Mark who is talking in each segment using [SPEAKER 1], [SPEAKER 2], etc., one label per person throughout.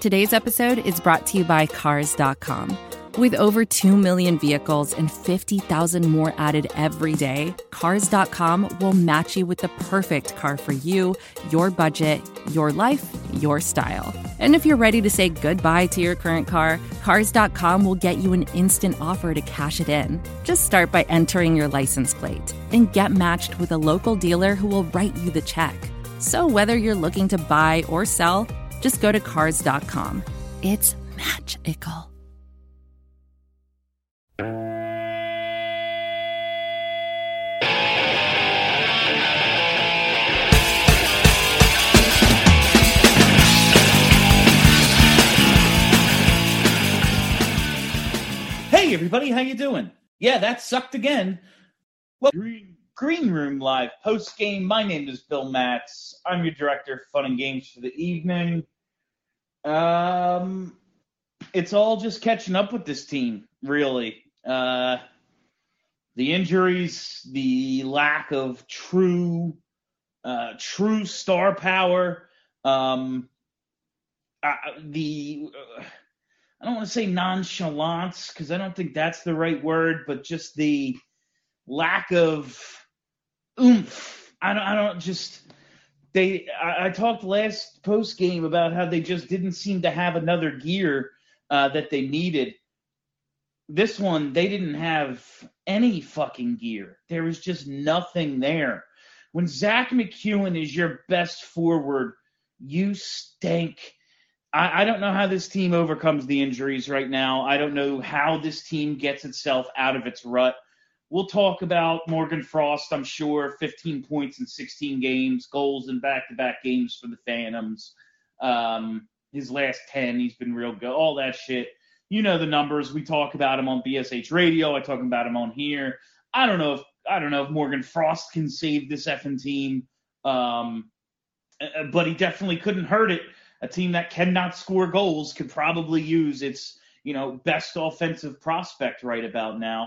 [SPEAKER 1] Today's episode is brought to you by Cars.com. With over 2 million vehicles and 50,000 more added every day, Cars.com will match you with the perfect car for you, your budget, your life, your style. And if you're ready to say goodbye to your current car, Cars.com will get you an instant offer to cash it in. Just start by entering your license plate and get matched with a local dealer who will write you the check. So whether you're looking to buy or sell, just go to Cars.com. It's magical.
[SPEAKER 2] Hey everybody, how you doing? Yeah, that sucked again. Well, Green Room Live post-game. My name is Bill Matz. I'm your director of fun and games for the evening. It's all just catching up with this team, really. The injuries, the lack of true star power, I don't want to say nonchalance because I don't think that's the right word, but just the lack of oomph. I talked last post game about how they just didn't seem to have another gear that they needed. This one, they didn't have any fucking gear. There was just nothing there. When Zach McEwen is your best forward, you stink. I don't know how this team overcomes the injuries right now. I don't know how this team gets itself out of its rut. We'll talk about Morgan Frost, I'm sure, 15 points in 16 games, goals in back-to-back games for the Phantoms. His last 10, he's been real good, all that shit. You know the numbers. We talk about him on BSH Radio. I talk about him on here. I don't know if Morgan Frost can save this effing team, but he definitely couldn't hurt it. A team that cannot score goals could probably use its, best offensive prospect right about now.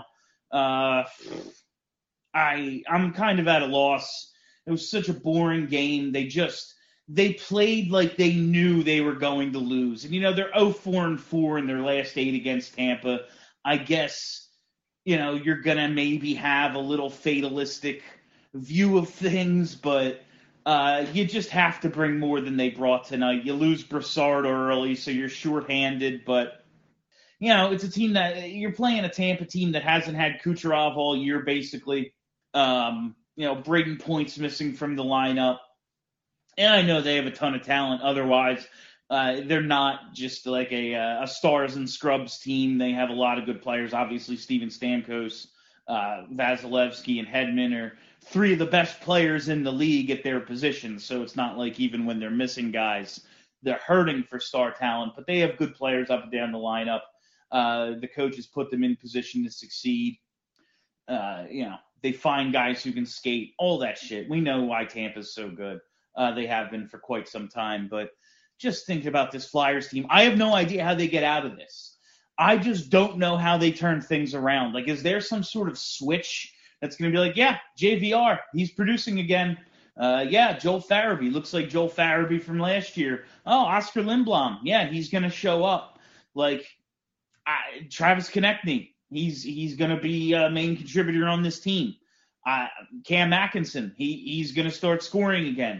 [SPEAKER 2] I'm kind of at a loss. It was such a boring game. They played like they knew they were going to lose. And, they're 0-4-4 in their last 8 against Tampa. I guess, you're going to maybe have a little fatalistic view of things, but you just have to bring more than they brought tonight. You lose Brassard early, so you're shorthanded, but it's a team that you're playing a Tampa team that hasn't had Kucherov all year, basically. Braden Point's missing from the lineup. And I know they have a ton of talent. Otherwise, they're not just like a stars and scrubs team. They have a lot of good players. Obviously, Steven Stamkos, Vasilevsky, and Hedman are 3 of the best players in the league at their positions. So it's not like even when they're missing guys, they're hurting for star talent. But they have good players up and down the lineup. The coaches put them in position to succeed. They find guys who can skate, all that shit. We know why Tampa's so good. They have been for quite some time. But just thinking about this Flyers team, I have no idea how they get out of this. I just don't know how they turn things around. Like, is there some sort of switch that's going to be like, yeah, JVR, he's producing again. Joel Farabee, looks like Joel Farabee from last year. Oh, Oscar Lindblom, yeah, he's going to show up. Like, Travis Konechny, he's going to be a main contributor on this team. Cam Atkinson, he's going to start scoring again.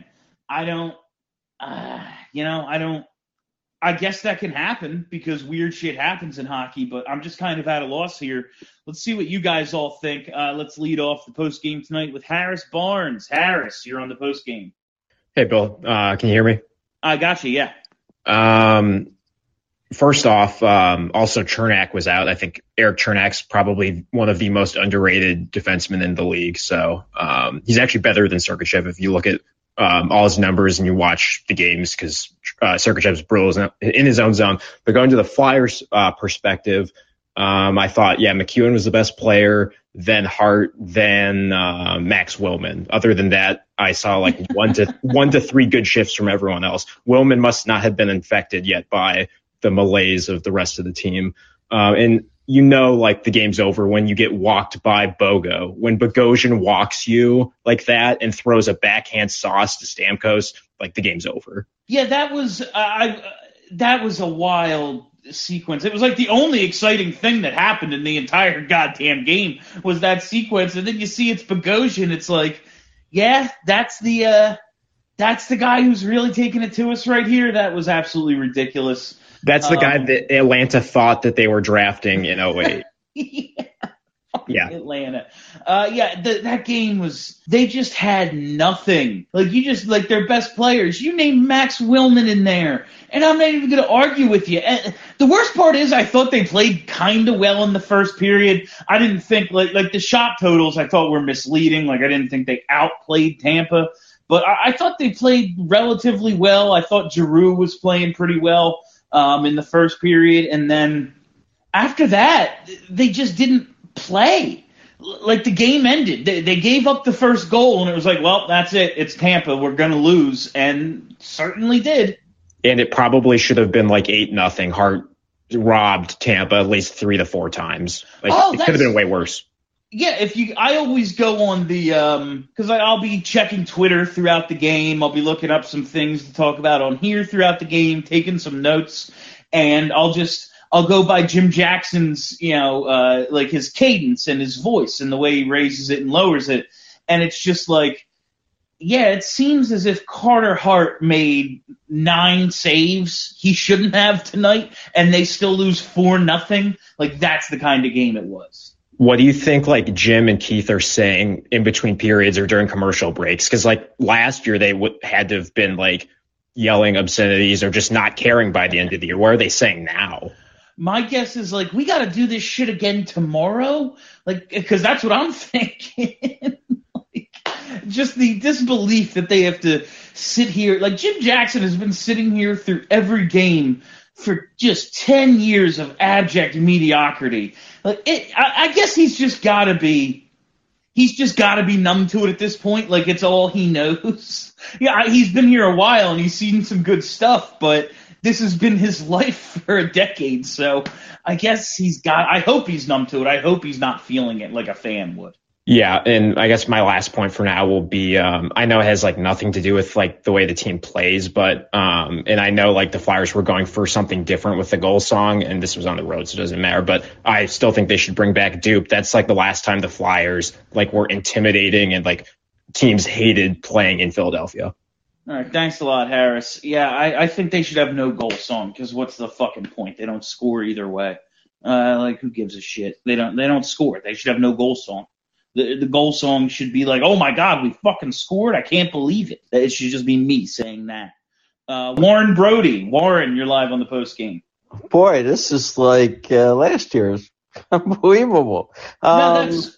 [SPEAKER 2] I guess that can happen because weird shit happens in hockey, but I'm just kind of at a loss here. Let's see what you guys all think. Let's lead off the post-game tonight with Harris Barnes. Harris, you're on the post-game.
[SPEAKER 3] Hey, Bill. Can you hear me?
[SPEAKER 2] I got you, yeah.
[SPEAKER 3] First off, also Chernak was out. I think Eric Chernak's probably one of the most underrated defensemen in the league. So he's actually better than Sergachev if you look at all his numbers and you watch the games because Sergachev's brutal in his own zone. But going to the Flyers perspective, I thought, McEwen was the best player, then Hart, then Max Willman. Other than that, I saw like one to 3 good shifts from everyone else. Willman must not have been infected yet by the malaise of the rest of the team. And like the game's over when you get walked by Bogo. When Bogosian walks you like that and throws a backhand sauce to Stamkos, like the game's over.
[SPEAKER 2] Yeah, that was that was a wild sequence. It was like the only exciting thing that happened in the entire goddamn game was that sequence, and then you see it's Bogosian. It's like, yeah, that's the guy who's really taking it to us right here. That was absolutely ridiculous.
[SPEAKER 3] That's the guy that Atlanta thought that they were drafting in 08.
[SPEAKER 2] Yeah. Atlanta. That game was, they just had nothing. Like, you just, like, their best players. You named Max Willman in there, and I'm not even going to argue with you. And the worst part is I thought they played kind of well in the first period. I didn't think, like the shot totals I thought were misleading. Like, I didn't think they outplayed Tampa. But I thought they played relatively well. I thought Giroux was playing pretty well in the first period. And then after that, they just didn't play. Like, the game ended. They gave up the first goal, and it was like, well, that's it. It's Tampa. We're going to lose. And certainly did.
[SPEAKER 3] And it probably should have been like 8-0. Hart robbed Tampa at least 3 to 4 times. Like, it could have been way worse.
[SPEAKER 2] Yeah, I always go on the because I'll be checking Twitter throughout the game. I'll be looking up some things to talk about on here throughout the game, taking some notes, and I'll go by Jim Jackson's, like his cadence and his voice and the way he raises it and lowers it, and it's just like, yeah, it seems as if Carter Hart made 9 saves he shouldn't have tonight, and they still lose 4-0. Like, that's the kind of game it was.
[SPEAKER 3] What do you think, like, Jim and Keith are saying in between periods or during commercial breaks? Because, like, last year they had to have been, like, yelling obscenities or just not caring by the end of the year. What are they saying now?
[SPEAKER 2] My guess is, like, we got to do this shit again tomorrow. Like, because that's what I'm thinking. Like, just the disbelief that they have to sit here. Like, Jim Jackson has been sitting here through every game for just 10 years of abject mediocrity. Like, I guess he's just got to be numb to it at this point. Like, it's all he knows. Yeah, he's been here a while and he's seen some good stuff, but this has been his life for a decade. So I guess I hope he's numb to it. I hope he's not feeling it like a fan would.
[SPEAKER 3] Yeah, and I guess my last point for now will be, I know it has like nothing to do with like the way the team plays, but and I know like the Flyers were going for something different with the goal song, and this was on the road, so it doesn't matter. But I still think they should bring back Dupe. That's like the last time the Flyers like were intimidating and like teams hated playing in Philadelphia.
[SPEAKER 2] All right, thanks a lot, Harris. Yeah, I think they should have no goal song, because what's the fucking point? They don't score either way. Like, who gives a shit? They don't score. They should have no goal song. The goal song should be like, oh my God, we fucking scored. I can't believe it. It should just be me saying that. Warren Brody. Warren, you're live on the post game.
[SPEAKER 4] Boy, this is like last year's. Unbelievable.
[SPEAKER 2] No, that's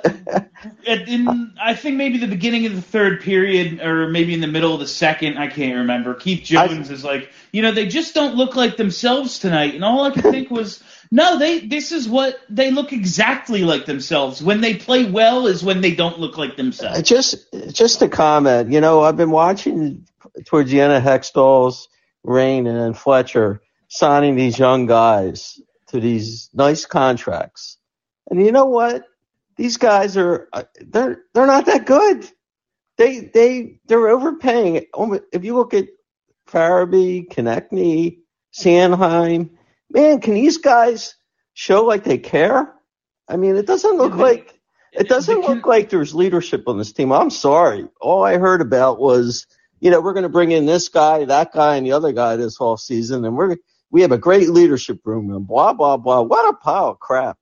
[SPEAKER 2] I think maybe the beginning of the third period, or maybe in the middle of the second. I can't remember. Keith Jones is like, they just don't look like themselves tonight. And all I could think was, no, this is what they look exactly like themselves. When they play well is when they don't look like themselves.
[SPEAKER 4] Just a comment. I've been watching towards the end of Hextall's reign and then Fletcher signing these young guys to these nice contracts. And you know what? These guys they're not that good. They're overpaying. If you look at Farabee, Konechny, Sanheim, man, can these guys show like they care? I mean, it doesn't look like there's leadership on this team. I'm sorry. All I heard about was, we're going to bring in this guy, that guy, and the other guy this whole season, and we have a great leadership room and blah, blah, blah. What a pile of crap.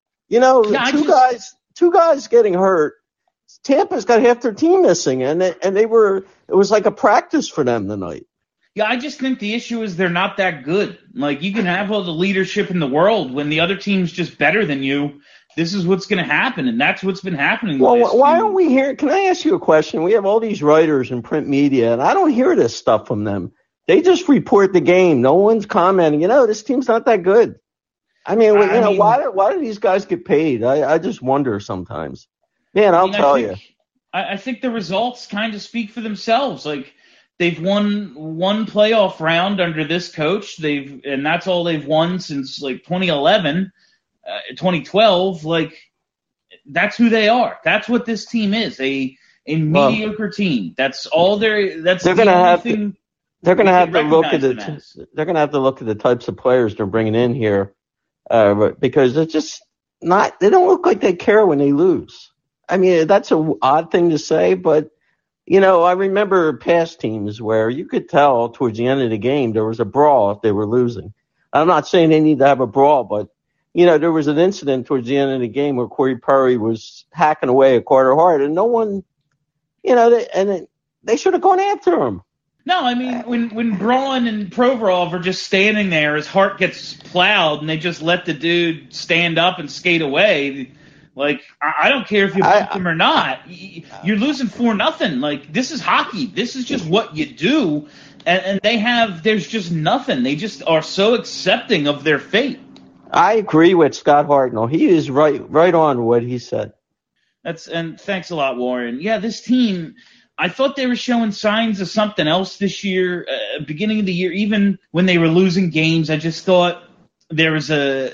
[SPEAKER 4] Two guys getting hurt. Tampa's got half their team missing, and it was like a practice for them tonight.
[SPEAKER 2] Yeah, I just think the issue is they're not that good. Like, you can have all the leadership in the world. When the other team's just better than you, this is what's going to happen, and that's what's been happening.
[SPEAKER 4] Well, why don't we hear – can I ask you a question? We have all these writers in print media, and I don't hear this stuff from them. They just report the game. No one's commenting, this team's not that good. I mean, why do these guys get paid? I just wonder sometimes. Man, I'll tell you.
[SPEAKER 2] I think the results kind of speak for themselves. Like, they've won one playoff round under this coach. And that's all they've won since like 2011, 2012. Like, that's who they are. That's what this team is. A mediocre team. That's all they're going to have.
[SPEAKER 4] they're going to have to look at
[SPEAKER 2] recognize
[SPEAKER 4] they're going to have to look at the types of players they're bringing in here, because they're just not. They don't look like they care when they lose. I mean, that's an odd thing to say, but I remember past teams where you could tell towards the end of the game there was a brawl if they were losing. I'm not saying they need to have a brawl, but there was an incident towards the end of the game where Corey Perry was hacking away at Carter Hart, and no one, they should have gone after him.
[SPEAKER 2] No, I mean, when Braun and Provorov are just standing there, his heart gets plowed, and they just let the dude stand up and skate away. Like, I don't care if you bump him or not. You're losing 4-0. Like, this is hockey. This is just what you do. And there's just nothing. They just are so accepting of their fate.
[SPEAKER 4] I agree with Scott Hartnell. He is right on what he said.
[SPEAKER 2] And thanks a lot, Warren. Yeah, this team, I thought they were showing signs of something else this year. Beginning of the year, even when they were losing games, I just thought there was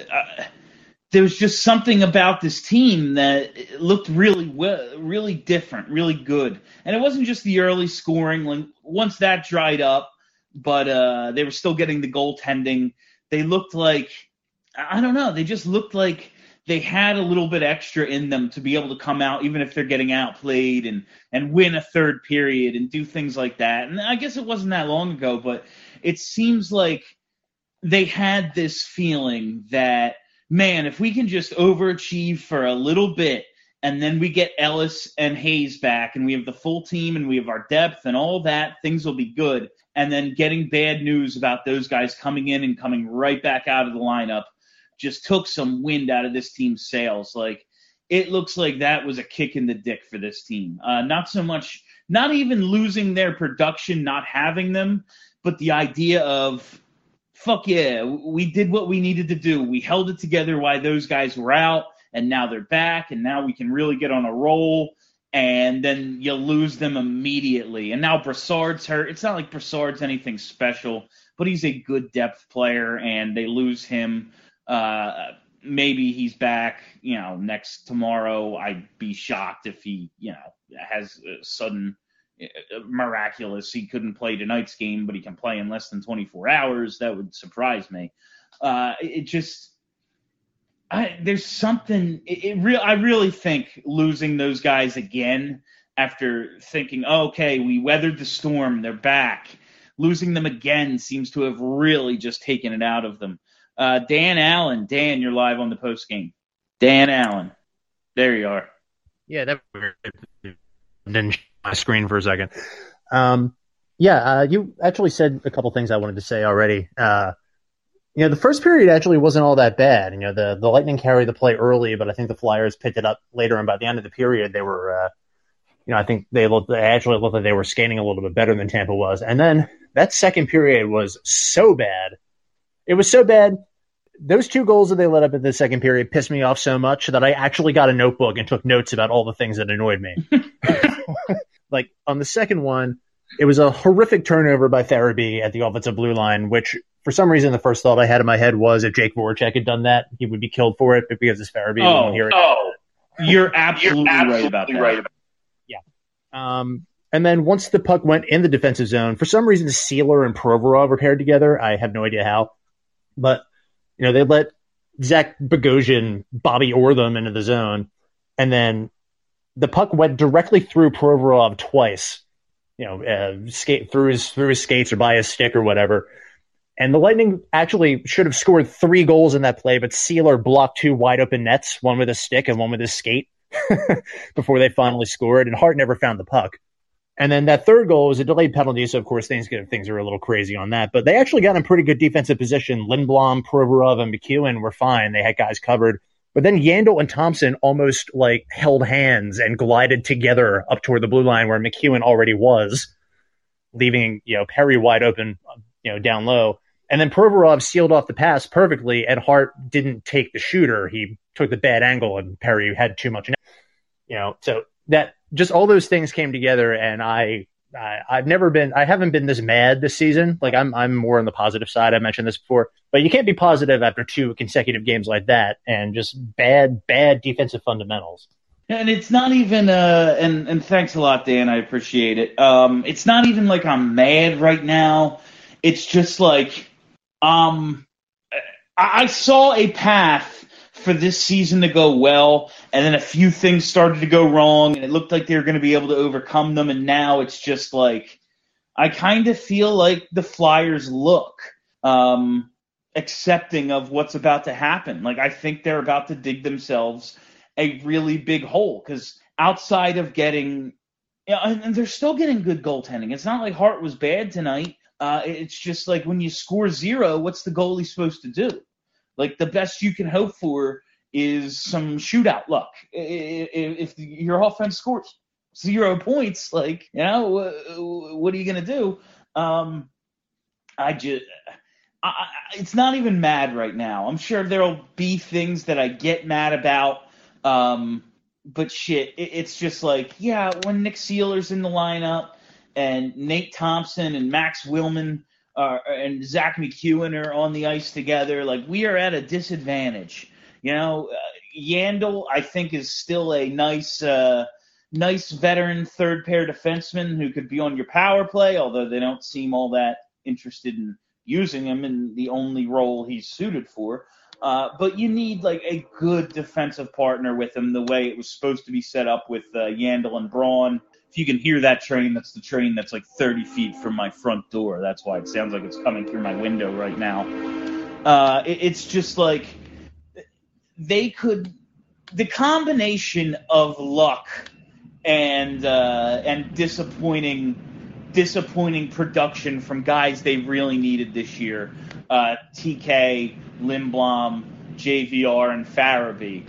[SPEAKER 2] just something about this team that looked really different, really good. And it wasn't just the early scoring. Like, once that dried up, but they were still getting the goaltending. They looked like, I don't know, they just looked like they had a little bit extra in them to be able to come out, even if they're getting outplayed, and win a third period and do things like that. And I guess it wasn't that long ago, but it seems like they had this feeling that, man, if we can just overachieve for a little bit, and then we get Ellis and Hayes back, and we have the full team, and we have our depth and all that, things will be good. And then getting bad news about those guys coming in and coming right back out of the lineup just took some wind out of this team's sails. Like, it looks like that was a kick in the dick for this team. Not so much, not even losing their production, not having them, but the idea of, fuck yeah, we did what we needed to do. We held it together while those guys were out, and now they're back, and now we can really get on a roll, and then you lose them immediately. And now Brassard's hurt. It's not like Brassard's anything special, but he's a good depth player, and they lose him. Maybe he's back, tomorrow. I'd be shocked if he, has a sudden miraculous. He couldn't play tonight's game, but he can play in less than 24 hours. That would surprise me. There's something. I really think losing those guys again after thinking, okay, we weathered the storm, they're back. Losing them again seems to have really just taken it out of them. Dan Allen. Dan, you're live on the post game. Dan Allen. There you are.
[SPEAKER 5] Yeah, that didn't show my screen for a second. You actually said a couple things I wanted to say already. The first period actually wasn't all that bad. The Lightning carried the play early, but I think the Flyers picked it up later, and by the end of the period, they were, I think they actually looked like they were skating a little bit better than Tampa was. And then that second period was so bad. It was so bad. Those 2 goals that they let up in the second period pissed me off so much that I actually got a notebook and took notes about all the things that annoyed me. Like, on the second one, it was a horrific turnover by Farabee at the offensive blue line, which for some reason the first thought I had in my head was if Jake Voracek had done that, he would be killed for it, but because it's Farabee, we won't hear it.
[SPEAKER 2] You're absolutely right about that.
[SPEAKER 5] Yeah. And then once the puck went in the defensive zone, for some reason Sealer and Provorov were paired together. I have no idea how. But, they let Zach Bogosian Bobby Orr them into the zone, and then the puck went directly through Provorov twice, skate through his skates or by his stick or whatever. And the Lightning actually should have scored 3 goals in that play, but Sealer blocked 2 wide open nets, one with his stick and one with his skate, before they finally scored, and Hart never found the puck. And then that third goal was a delayed penalty, so of course things are a little crazy on that. But they actually got in pretty good defensive position. Lindblom, Provorov, and McEwen were fine. They had guys covered. But then Yandel and Thompson almost held hands and glided together up toward the blue line where McEwen already was, leaving Perry wide open, down low. And then Provorov sealed off the pass perfectly, and Hart didn't take the shooter. He took the bad angle, and Perry had too much. So that just all those things came together, and I haven't been this mad this season. Like, I'm more on the positive side. I mentioned this before, but you can't be positive after 2 consecutive games like that and just bad defensive fundamentals.
[SPEAKER 2] And it's not even and thanks a lot, Dan. I appreciate it. It's not even like I'm mad right now. It's just like I saw a path for this season to go well, and then a few things started to go wrong, and it looked like they were going to be able to overcome them, and now it's just like I kind of feel like the Flyers look accepting of what's about to happen. Like, I think they're about to dig themselves a really big hole, because outside of getting and they're still getting good goaltending. It's not like Hart was bad tonight. It's just like when you score 0, what's the goalie supposed to do? Like, the best you can hope for is some shootout luck. If your offense scores 0 points, like, what are you going to do? It's not even mad right now. I'm sure there'll be things that I get mad about. But shit, it's just like, yeah, when Nick Seeler's in the lineup and Nate Thompson and Max Willman and Zach McEwen are on the ice together, like, we are at a disadvantage. Yandel, I think, is still a nice veteran third pair defenseman who could be on your power play, although they don't seem all that interested in using him in the only role he's suited for. But you need like a good defensive partner with him, the way it was supposed to be set up with Yandel and Braun. If you can hear that train, that's the train that's like 30 feet from my front door. That's why it sounds like it's coming through my window right now. It's just like the combination of luck and disappointing production from guys they really needed this year. TK, Lindblom, JVR, and Farabee.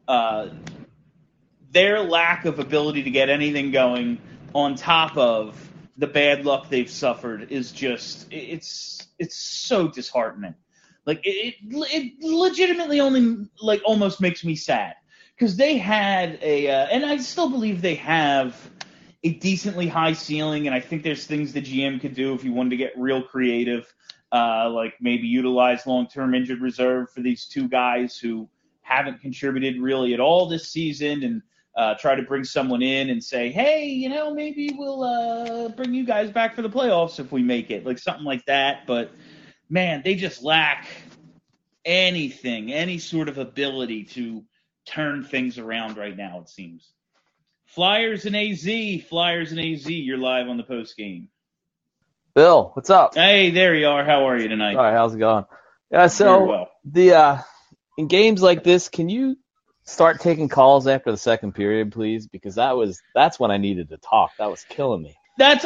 [SPEAKER 2] Their lack of ability to get anything going on top of the bad luck they've suffered is just, it's so disheartening. Like, it legitimately only, like, almost makes me sad. Because they had and I still believe they have a decently high ceiling, and I think there's things the GM could do if he wanted to get real creative, like maybe utilize long-term injured reserve for these two guys who haven't contributed really at all this season, and try to bring someone in and say, hey, maybe we'll bring you guys back for the playoffs if we make it, like something like that. But, man, they just lack any sort of ability to turn things around right now, it seems. Flyers and AZ, you're live on the post game.
[SPEAKER 6] Bill, what's up?
[SPEAKER 2] Hey, there you are. How are you tonight?
[SPEAKER 6] All right, how's it going? Yeah, so
[SPEAKER 2] very well.
[SPEAKER 6] In games like this, can you start taking calls after the second period, please? Because that's when I needed to talk. That was killing me.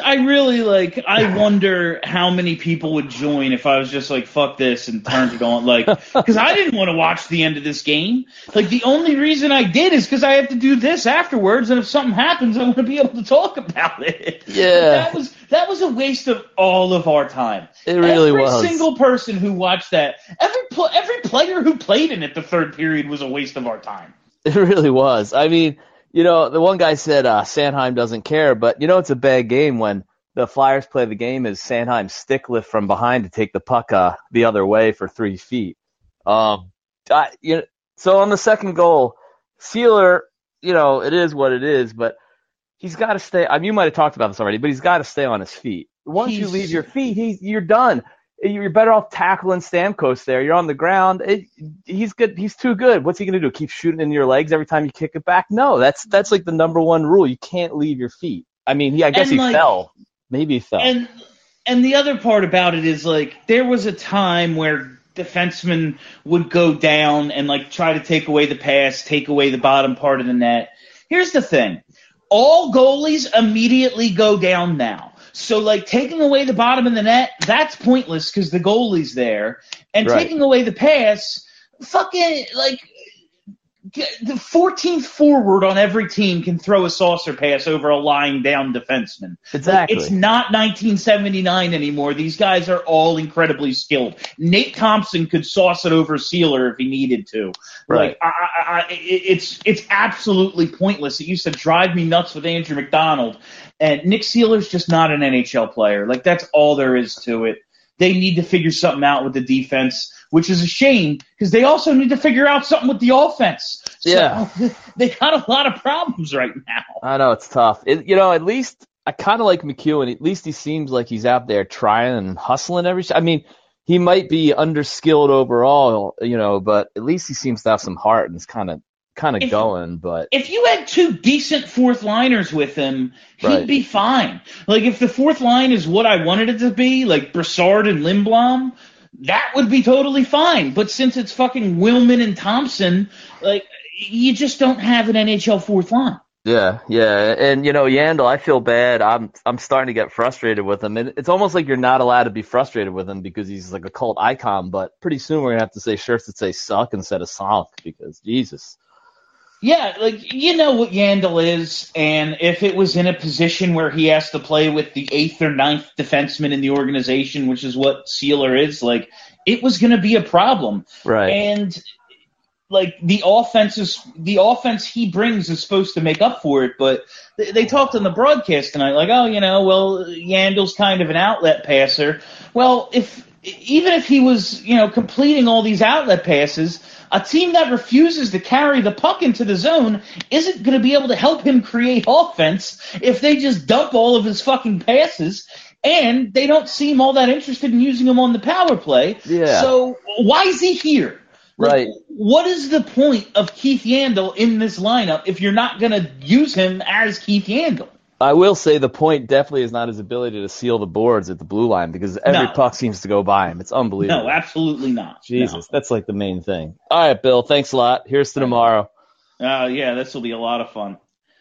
[SPEAKER 2] I wonder how many people would join if I was just like, fuck this, and turned it on. Like, because I didn't want to watch the end of this game. Like, the only reason I did is because I have to do this afterwards, and if something happens, I want to be able to talk about it.
[SPEAKER 6] Yeah.
[SPEAKER 2] That was a waste of all of our time.
[SPEAKER 6] It really was.
[SPEAKER 2] Every single person who watched that, every player who played in it the third period was a waste of our time.
[SPEAKER 6] It really was. I mean, the one guy said Sanheim doesn't care, but it's a bad game when the Flyers play the game as Sanheim stick lift from behind to take the puck the other way for 3 feet. So on the second goal, Seeler, it is what it is, but he's got to stay. I mean, you might have talked about this already, but he's got to stay on his feet. Once you leave your feet, you're done. You're better off tackling Stamkos there. You're on the ground. He's good. He's too good. What's he going to do? Keep shooting in your legs every time you kick it back? No, that's like the number one rule. You can't leave your feet. I mean, I guess he fell. Maybe he fell.
[SPEAKER 2] And the other part about it is, like, there was a time where defensemen would go down and, like, try to take away the pass, take away the bottom part of the net. Here's the thing. All goalies immediately go down now. So, like, taking away the bottom of the net, that's pointless because the goalie's there. And
[SPEAKER 6] right.
[SPEAKER 2] Taking away the pass, fucking, like, the 14th forward on every team can throw a saucer pass over a lying down defenseman.
[SPEAKER 6] Exactly.
[SPEAKER 2] Like, it's not 1979 anymore. These guys are all incredibly skilled. Nate Thompson could sauce it over Seeler if he needed to.
[SPEAKER 6] Right.
[SPEAKER 2] Like, it's absolutely pointless. It used to drive me nuts with Andrew McDonald. And Nick Seeler's just not an NHL player. Like, that's all there is to it. They need to figure something out with the defense. which is a shame because they also need to figure out something with the offense.
[SPEAKER 6] Yeah.
[SPEAKER 2] So they got a lot of problems right now.
[SPEAKER 6] I know it's tough. At least I kind of like McEwen. At least he seems like he's out there trying and hustling every shot. I mean, he might be underskilled overall, but at least he seems to have some heart and is kind of going. But
[SPEAKER 2] if you had two decent fourth liners with him, he'd
[SPEAKER 6] Right.
[SPEAKER 2] be fine. Like if the fourth line is what I wanted it to be, like Brassard and Lindblom, that would be totally fine. But since it's fucking Willman and Thompson, like you just don't have an NHL fourth line.
[SPEAKER 6] yeah. And Yandel, I feel bad. I'm starting to get frustrated with him. And it's almost like you're not allowed to be frustrated with him because he's like a cult icon, but pretty soon we're gonna have to say shirts that say suck instead of sunk because Jesus.
[SPEAKER 2] Yeah, like you know what Yandel is, and if it was in a position where he has to play with the 8th or 9th defenseman in the organization, which is what Sealer is, like it was going to be a problem.
[SPEAKER 6] Right.
[SPEAKER 2] And like the offense he brings is supposed to make up for it, but they talked on the broadcast tonight, like, well, Yandel's kind of an outlet passer. Well, even if he was, completing all these outlet passes, a team that refuses to carry the puck into the zone isn't going to be able to help him create offense if they just dump all of his fucking passes, and they don't seem all that interested in using him on the power play.
[SPEAKER 6] Yeah.
[SPEAKER 2] So why is he here?
[SPEAKER 6] Right.
[SPEAKER 2] What is the point of Keith Yandel in this lineup if you're not going to use him as Keith Yandel?
[SPEAKER 6] I will say the point definitely is not his ability to seal the boards at the blue line because every puck seems to go by him. It's unbelievable.
[SPEAKER 2] No, absolutely not.
[SPEAKER 6] Jesus, that's like the main thing. All right, Bill, thanks a lot. Here's to tomorrow.
[SPEAKER 2] Yeah, this will be a lot of fun.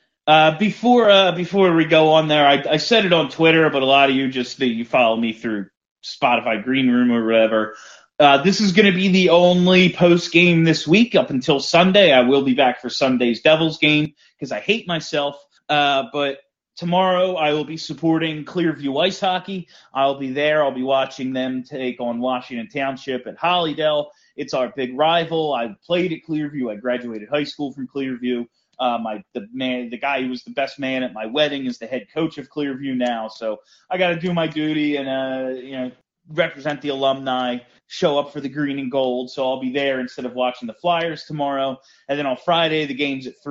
[SPEAKER 2] Before we go on there, I said it on Twitter, but a lot of you you follow me through Spotify Green Room or whatever. This is going to be the only post game this week up until Sunday. I will be back for Sunday's Devils game because I hate myself. But tomorrow I will be supporting Clearview Ice Hockey. I'll be there. I'll be watching them take on Washington Township at Hollydale. It's our big rival. I played at Clearview. I graduated high school from Clearview. The guy who was the best man at my wedding is the head coach of Clearview now. So I got to do my duty and represent the alumni, show up for the green and gold. So I'll be there instead of watching the Flyers tomorrow. And then on Friday, the game's at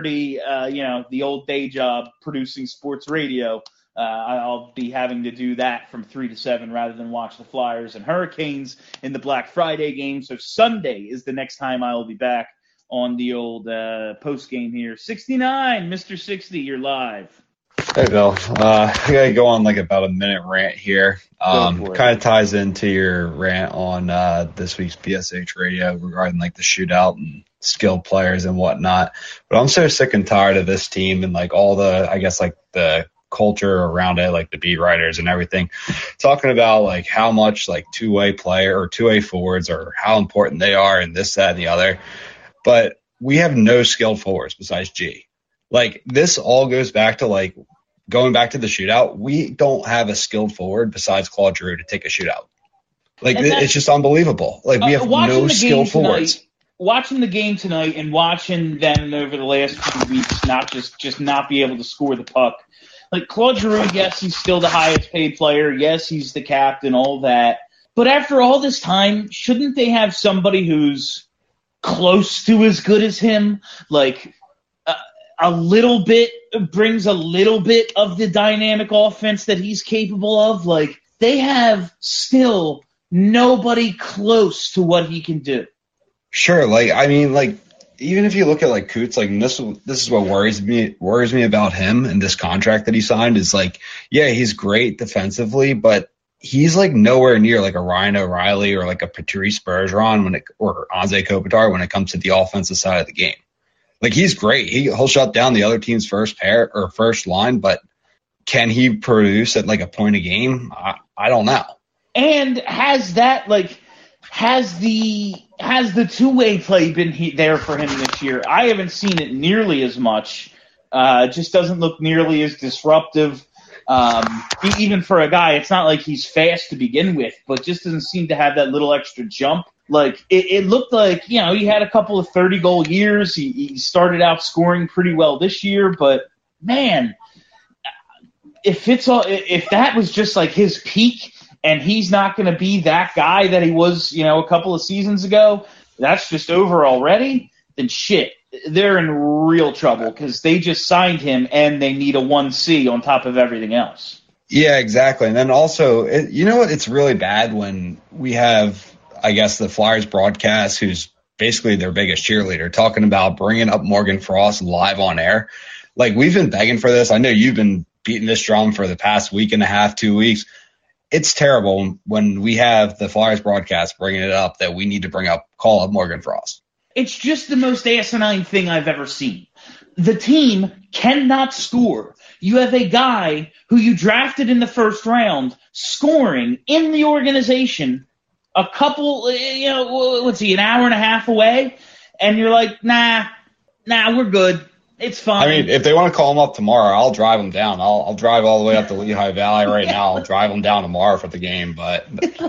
[SPEAKER 2] 3:30. The old day job producing sports radio. I'll be having to do that from 3 to 7 rather than watch the Flyers and Hurricanes in the Black Friday game. So Sunday is the next time I will be back on the old post game here. 69, Mr. 60, you're live.
[SPEAKER 7] Hey, Bill. I got to go on like about a minute rant here. Kind of ties into your rant on this week's BSH radio regarding like the shootout and skilled players and whatnot. But I'm so sick and tired of this team and like all the, I guess, like the culture around it, like the beat writers and everything, talking about like how much like two-way player or two-way forwards or how important they are and this, that, and the other. But we have no skilled forwards besides G. Like this all goes back to like going back to the shootout. We don't have a skilled forward besides Claude Giroux to take a shootout. Like it's just unbelievable. Like we have no skilled forwards.
[SPEAKER 2] Watching the game tonight and watching them over the last few weeks, not just not be able to score the puck. Like Claude Giroux, yes, he's still the highest paid player. Yes, he's the captain, all that. But after all this time, shouldn't they have somebody who's close to as good as him? Like a little bit, brings a little bit of the dynamic offense that he's capable of. Like they have still nobody close to what he can do.
[SPEAKER 7] Sure. Like, I mean, like, even if you look at like Coots, like this is what worries me about him and this contract that he signed is like, yeah, he's great defensively, but he's like nowhere near like a Ryan O'Reilly or like a Patrice Bergeron or Anze Kopitar when it comes to the offensive side of the game. Like he's great. He'll shut down the other team's first pair or first line, but can he produce at like a point a game? I don't know.
[SPEAKER 2] And has the two-way play been there for him this year? I haven't seen it nearly as much. It just doesn't look nearly as disruptive. Even for a guy, it's not like he's fast to begin with, but just doesn't seem to have that little extra jump. Like it looked like, he had a couple of 30-goal years. He started out scoring pretty well this year, but man, if that was just like his peak and he's not going to be that guy that he was, a couple of seasons ago, that's just over already, then shit, they're in real trouble because they just signed him and they need a 1C on top of everything else.
[SPEAKER 7] Yeah, exactly. And then also, it's really bad when we have, I guess, the Flyers broadcast, who's basically their biggest cheerleader, talking about bringing up Morgan Frost live on air. Like, we've been begging for this. I know you've been beating this drum for the past week and a half, 2 weeks. It's terrible when we have the Flyers broadcast bringing it up that we need to call up Morgan Frost.
[SPEAKER 2] It's just the most asinine thing I've ever seen. The team cannot score. You have a guy who you drafted in the first round scoring in the organization a couple, what's he, an hour and a half away? And you're like, nah, we're good. It's fine.
[SPEAKER 7] I mean, if they want to call him up tomorrow, I'll drive him down. I'll drive all the way up to Lehigh Valley right now. I'll drive him down tomorrow for the game. But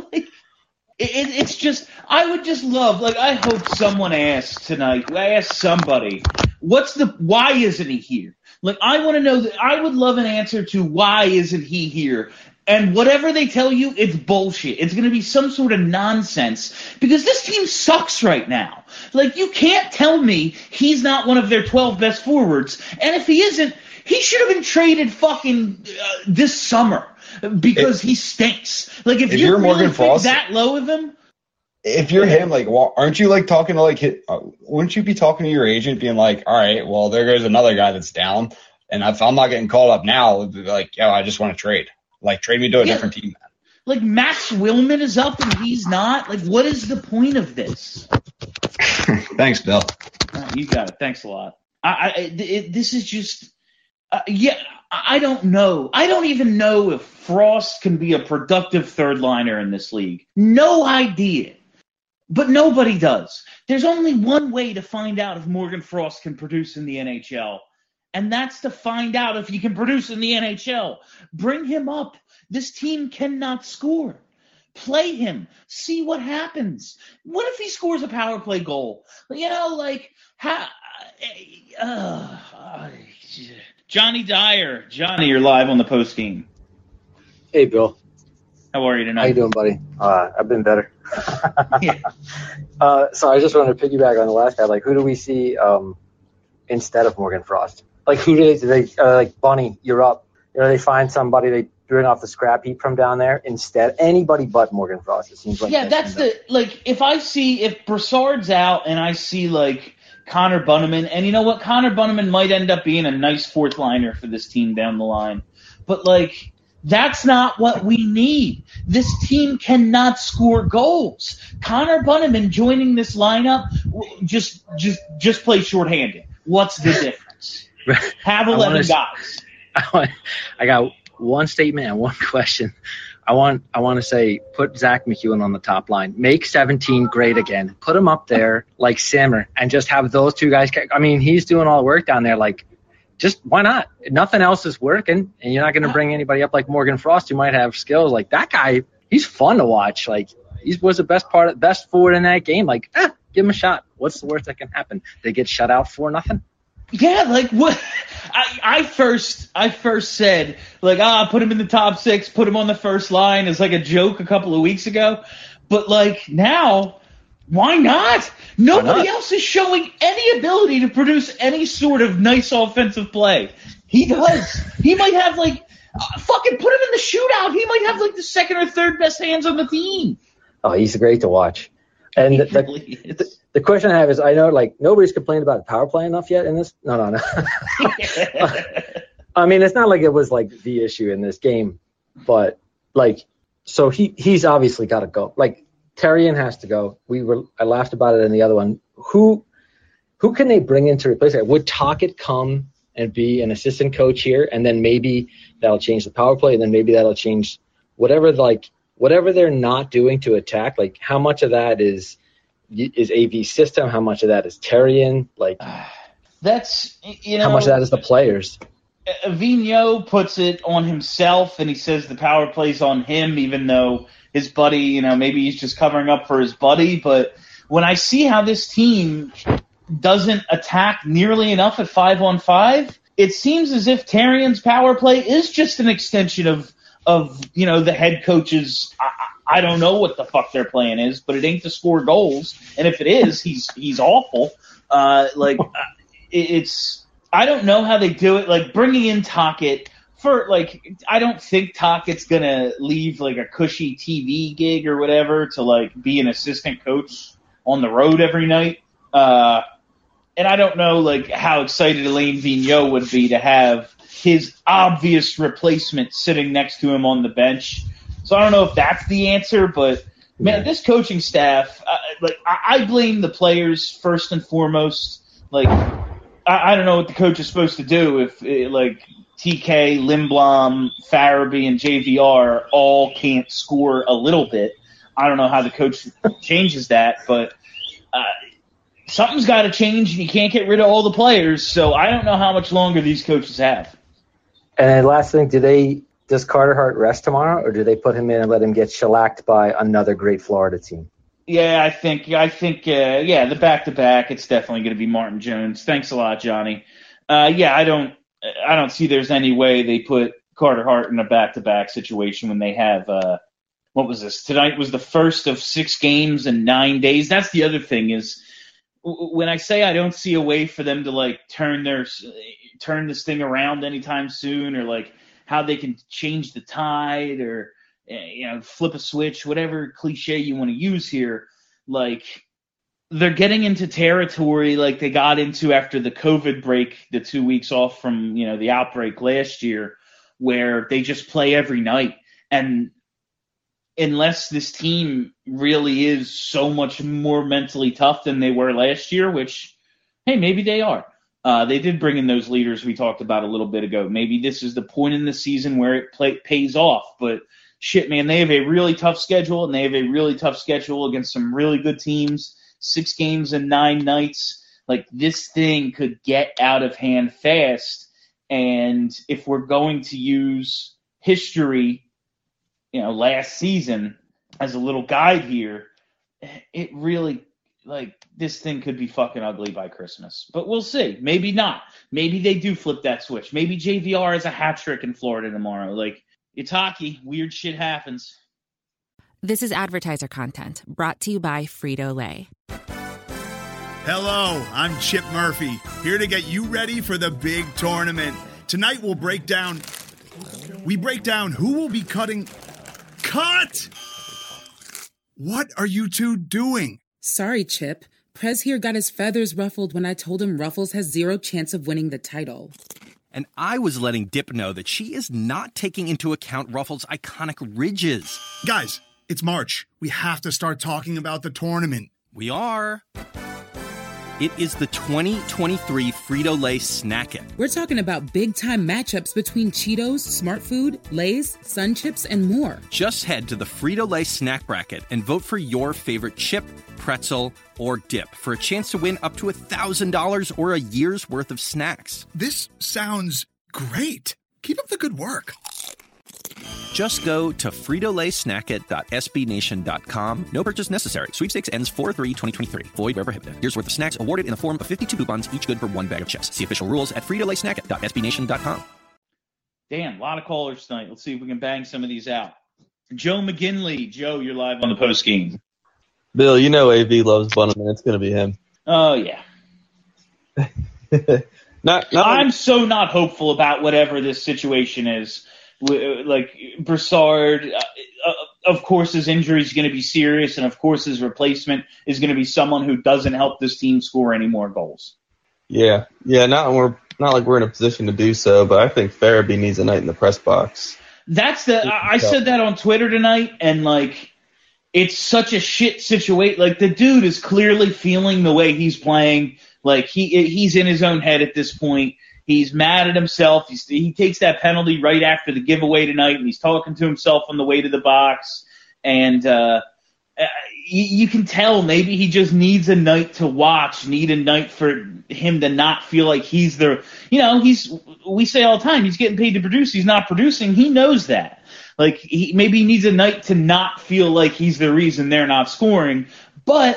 [SPEAKER 2] it's just, I would just love, I hope someone asks tonight, I ask somebody, why isn't he here? I want to know that. I would love an answer to why isn't he here? And whatever they tell you, it's bullshit. It's going to be some sort of nonsense because this team sucks right now. You can't tell me he's not one of their 12 best forwards. And if he isn't, he should have been traded fucking this summer because he stinks. If you're really Morgan Frost, that low of him.
[SPEAKER 7] If you're him, aren't you talking to wouldn't you be talking to your agent being like, all right, well, there goes another guy that's down. And if I'm not getting called up now, it'd be like, yo, I just want to trade. Trade me to a different team.
[SPEAKER 2] Max Willman is up and he's not. What is the point of this?
[SPEAKER 7] Thanks, Bill.
[SPEAKER 2] You got it. Thanks a lot. This is just, I don't know. I don't even know if Frost can be a productive third liner in this league. No idea. But nobody does. There's only one way to find out if Morgan Frost can produce in the NHL. And that's to find out if he can produce in the NHL. Bring him up. This team cannot score. Play him. See what happens. What if he scores a power play goal? Johnny Dyer. Johnny, you're live on the post game.
[SPEAKER 8] Hey, Bill.
[SPEAKER 2] How are you tonight?
[SPEAKER 8] How you doing, buddy? I've been better.
[SPEAKER 2] Yeah.
[SPEAKER 8] So I just wanted to piggyback on the last guy. Who do we see instead of Morgan Frost? Who do they Bunny, you're up. They find somebody, they bring off the scrap heap from down there instead. Anybody but Morgan Frost, it seems like.
[SPEAKER 2] Yeah, that's if Brassard's out and I see Connor Bunnaman, and you know what, Connor Bunnaman might end up being a nice fourth liner for this team down the line. But that's not what we need. This team cannot score goals. Connor Bunnaman joining this lineup, just play shorthanded. What's the difference? Have 11 guys.
[SPEAKER 8] I got one statement and one question. I want to say, put Zach McEwen on the top line. Make 17 great again. Put him up there like Simmer and just have those two guys. I mean, he's doing all the work down there. Just why not? Nothing else is working, and you're not going to bring anybody up like Morgan Frost who might have skills. That guy, he's fun to watch. He was the best forward in that game. Give him a shot. What's the worst that can happen? They get shut out 4-0.
[SPEAKER 2] Yeah, what? I first said put him in the top 6, put him on the first line as a joke a couple of weeks ago, but now, why not? Nobody else is showing any ability to produce any sort of nice offensive play. He does. He might have fucking put him in the shootout. He might have the second or third best hands on the team.
[SPEAKER 8] Oh, he's great to watch. And the question I have is, I know nobody's complained about the power play enough yet in this. No. I mean, it's not like it was the issue in this game, but so he's obviously got to go. Therrien has to go. I laughed about it in the other one. Who can they bring in to replace it? Would Tocchet come and be an assistant coach here, and then maybe that'll change the power play, and then maybe that'll change whatever they're not doing to attack? How much of that is AV's system? How much of that is Therrien?
[SPEAKER 2] That's
[SPEAKER 8] how much of that is the players?
[SPEAKER 2] Vigneault puts it on himself, and he says the power play's on him, even though his buddy, maybe he's just covering up for his buddy. But when I see how this team doesn't attack nearly enough at 5-on-5, it seems as if Therrien's power play is just an extension of of the head coaches. I don't know what the fuck their plan is, but it ain't to score goals. And if it is, he's awful. It's I don't know how they do it. Like bringing in Tocchet I don't think Tockett's gonna leave like a cushy TV gig or whatever to like be an assistant coach on the road every night. And I don't know like how excited Alain Vigneault would be to have his obvious replacement sitting next to him on the bench. So I don't know if that's the answer, but man, this coaching staff, I blame the players first and foremost. Like, I don't know what the coach is supposed to do if TK, Lindblom, Farabee, and JVR all can't score a little bit. I don't know how the coach changes that, but something's got to change. You can't get rid of all the players, so I don't know how much longer these coaches have.
[SPEAKER 8] And last thing, does Carter Hart rest tomorrow, or do they put him in and let him get shellacked by another great Florida team?
[SPEAKER 2] Yeah, I think, the back-to-back, it's definitely going to be Martin Jones. Thanks a lot, Johnny. I don't see there's any way they put Carter Hart in a back-to-back situation when they have, what was this? Tonight was the first of 6 games in 9 days. That's the other thing is when I say I don't see a way for them to like turn this thing around anytime soon, or like how they can change the tide or flip a switch, whatever cliche you want to use here, like they're getting into territory like they got into after the COVID break, the 2 weeks off from the outbreak last year, where they just play every night. And unless this team really is so much more mentally tough than they were last year, which, hey, maybe they are. They did bring in those leaders we talked about a little bit ago. Maybe this is the point in the season where it pays off. But shit, man, they have a really tough schedule, and they have a really tough schedule against some really good teams. 6 games in 9 nights. Like, this thing could get out of hand fast. And if we're going to use history, last season as a little guide here, it really, this thing could be fucking ugly by Christmas. But we'll see. Maybe not. Maybe they do flip that switch. Maybe JVR has a hat trick in Florida tomorrow. It's hockey. Weird shit happens.
[SPEAKER 1] This is advertiser content brought to you by Frito-Lay.
[SPEAKER 9] Hello, I'm Chip Murphy, here to get you ready for the big tournament. Tonight we'll break down who will be cutting... Cut! What are you two doing?
[SPEAKER 10] Sorry, Chip. Prez here got his feathers ruffled when I told him Ruffles has 0 chance of winning the title.
[SPEAKER 11] And I was letting Dip know that she is not taking into account Ruffles' iconic ridges.
[SPEAKER 9] Guys, it's March. We have to start talking about the tournament.
[SPEAKER 11] We are. It is the 2023 Frito-Lay Snack It.
[SPEAKER 10] We're talking about big-time matchups between Cheetos, Smart Food, Lay's, Sun Chips, and more.
[SPEAKER 11] Just head to the Frito-Lay Snack Bracket and vote for your favorite chip, pretzel, or dip for a chance to win up to $1,000 or a year's worth of snacks.
[SPEAKER 9] This sounds great. Keep up the good work.
[SPEAKER 11] Just go to fritolaysnackit.sbnation.com. No purchase necessary. Sweepstakes ends 4/3/2023. Void where prohibited. Year's worth of snacks awarded in the form of 52 coupons, each good for 1 bag of chips. See official rules at fritolaysnackit.sbnation.com.
[SPEAKER 2] Damn, a lot of callers tonight. Let's see if we can bang some of these out. Joe McGinley. Joe, you're live on the post game.
[SPEAKER 4] Bill, AV loves Bunneman. It's going to be him.
[SPEAKER 2] Oh, yeah. I'm so not hopeful about whatever this situation is. Like Brassard, of course, his injury is going to be serious, and of course, his replacement is going to be someone who doesn't help this team score any more goals.
[SPEAKER 4] Yeah. Not like we're in a position to do so, but I think Farabee needs a night in the press box.
[SPEAKER 2] I said that on Twitter tonight, and it's such a shit situation. The dude is clearly feeling the way he's playing. He's in his own head at this point. He's mad at himself. He takes that penalty right after the giveaway tonight, and he's talking to himself on the way to the box. And you can tell maybe he just needs a night to watch, need a night for him to not feel like he's the – we say all the time, he's getting paid to produce. He's not producing. He knows that. Maybe he needs a night to not feel like he's the reason they're not scoring. But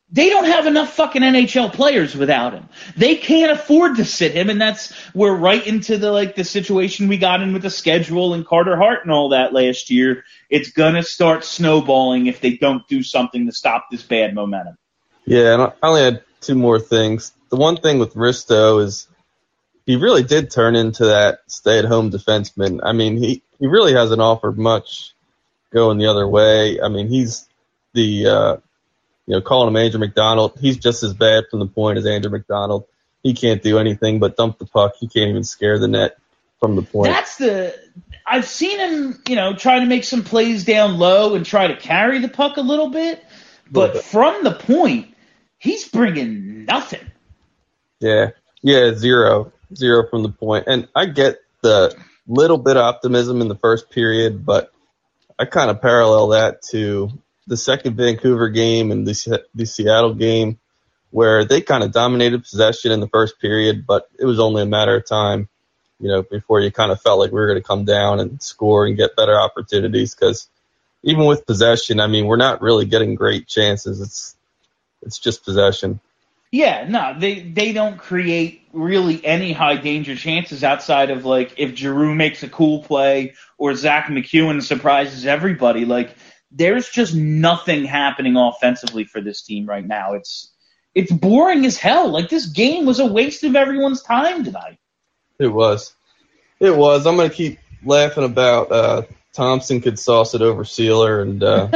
[SPEAKER 2] they don't have enough fucking NHL players without him. They can't afford to sit him, and we're right into the situation we got in with the schedule and Carter Hart and all that last year. It's gonna start snowballing if they don't do something to stop this bad momentum.
[SPEAKER 12] Yeah, and I only had two more things. The one thing with Risto is he really did turn into that stay-at-home defenseman. I mean, he really hasn't offered much going the other way. I mean, he's the calling him Andrew McDonald. He's just as bad from the point as Andrew McDonald. He can't do anything but dump the puck. He can't even scare the net from the point.
[SPEAKER 2] I've seen him, try to make some plays down low and try to carry the puck a little bit, but from the point, he's bringing nothing.
[SPEAKER 12] Yeah, zero from the point. And I get the little bit of optimism in the first period, but I kind of parallel that to the second Vancouver game and the Seattle game, where they kind of dominated possession in the first period, but it was only a matter of time, before you kind of felt like we were going to come down and score and get better opportunities. Because even with possession, I mean, we're not really getting great chances. It's just possession.
[SPEAKER 2] Yeah, no, they don't create really any high danger chances outside of if Giroux makes a cool play or Zach McEwen surprises everybody. There's just nothing happening offensively for this team right now. It's boring as hell. This game was a waste of everyone's time tonight.
[SPEAKER 12] It was. I'm going to keep laughing about Thompson could sauce it over Sealer and go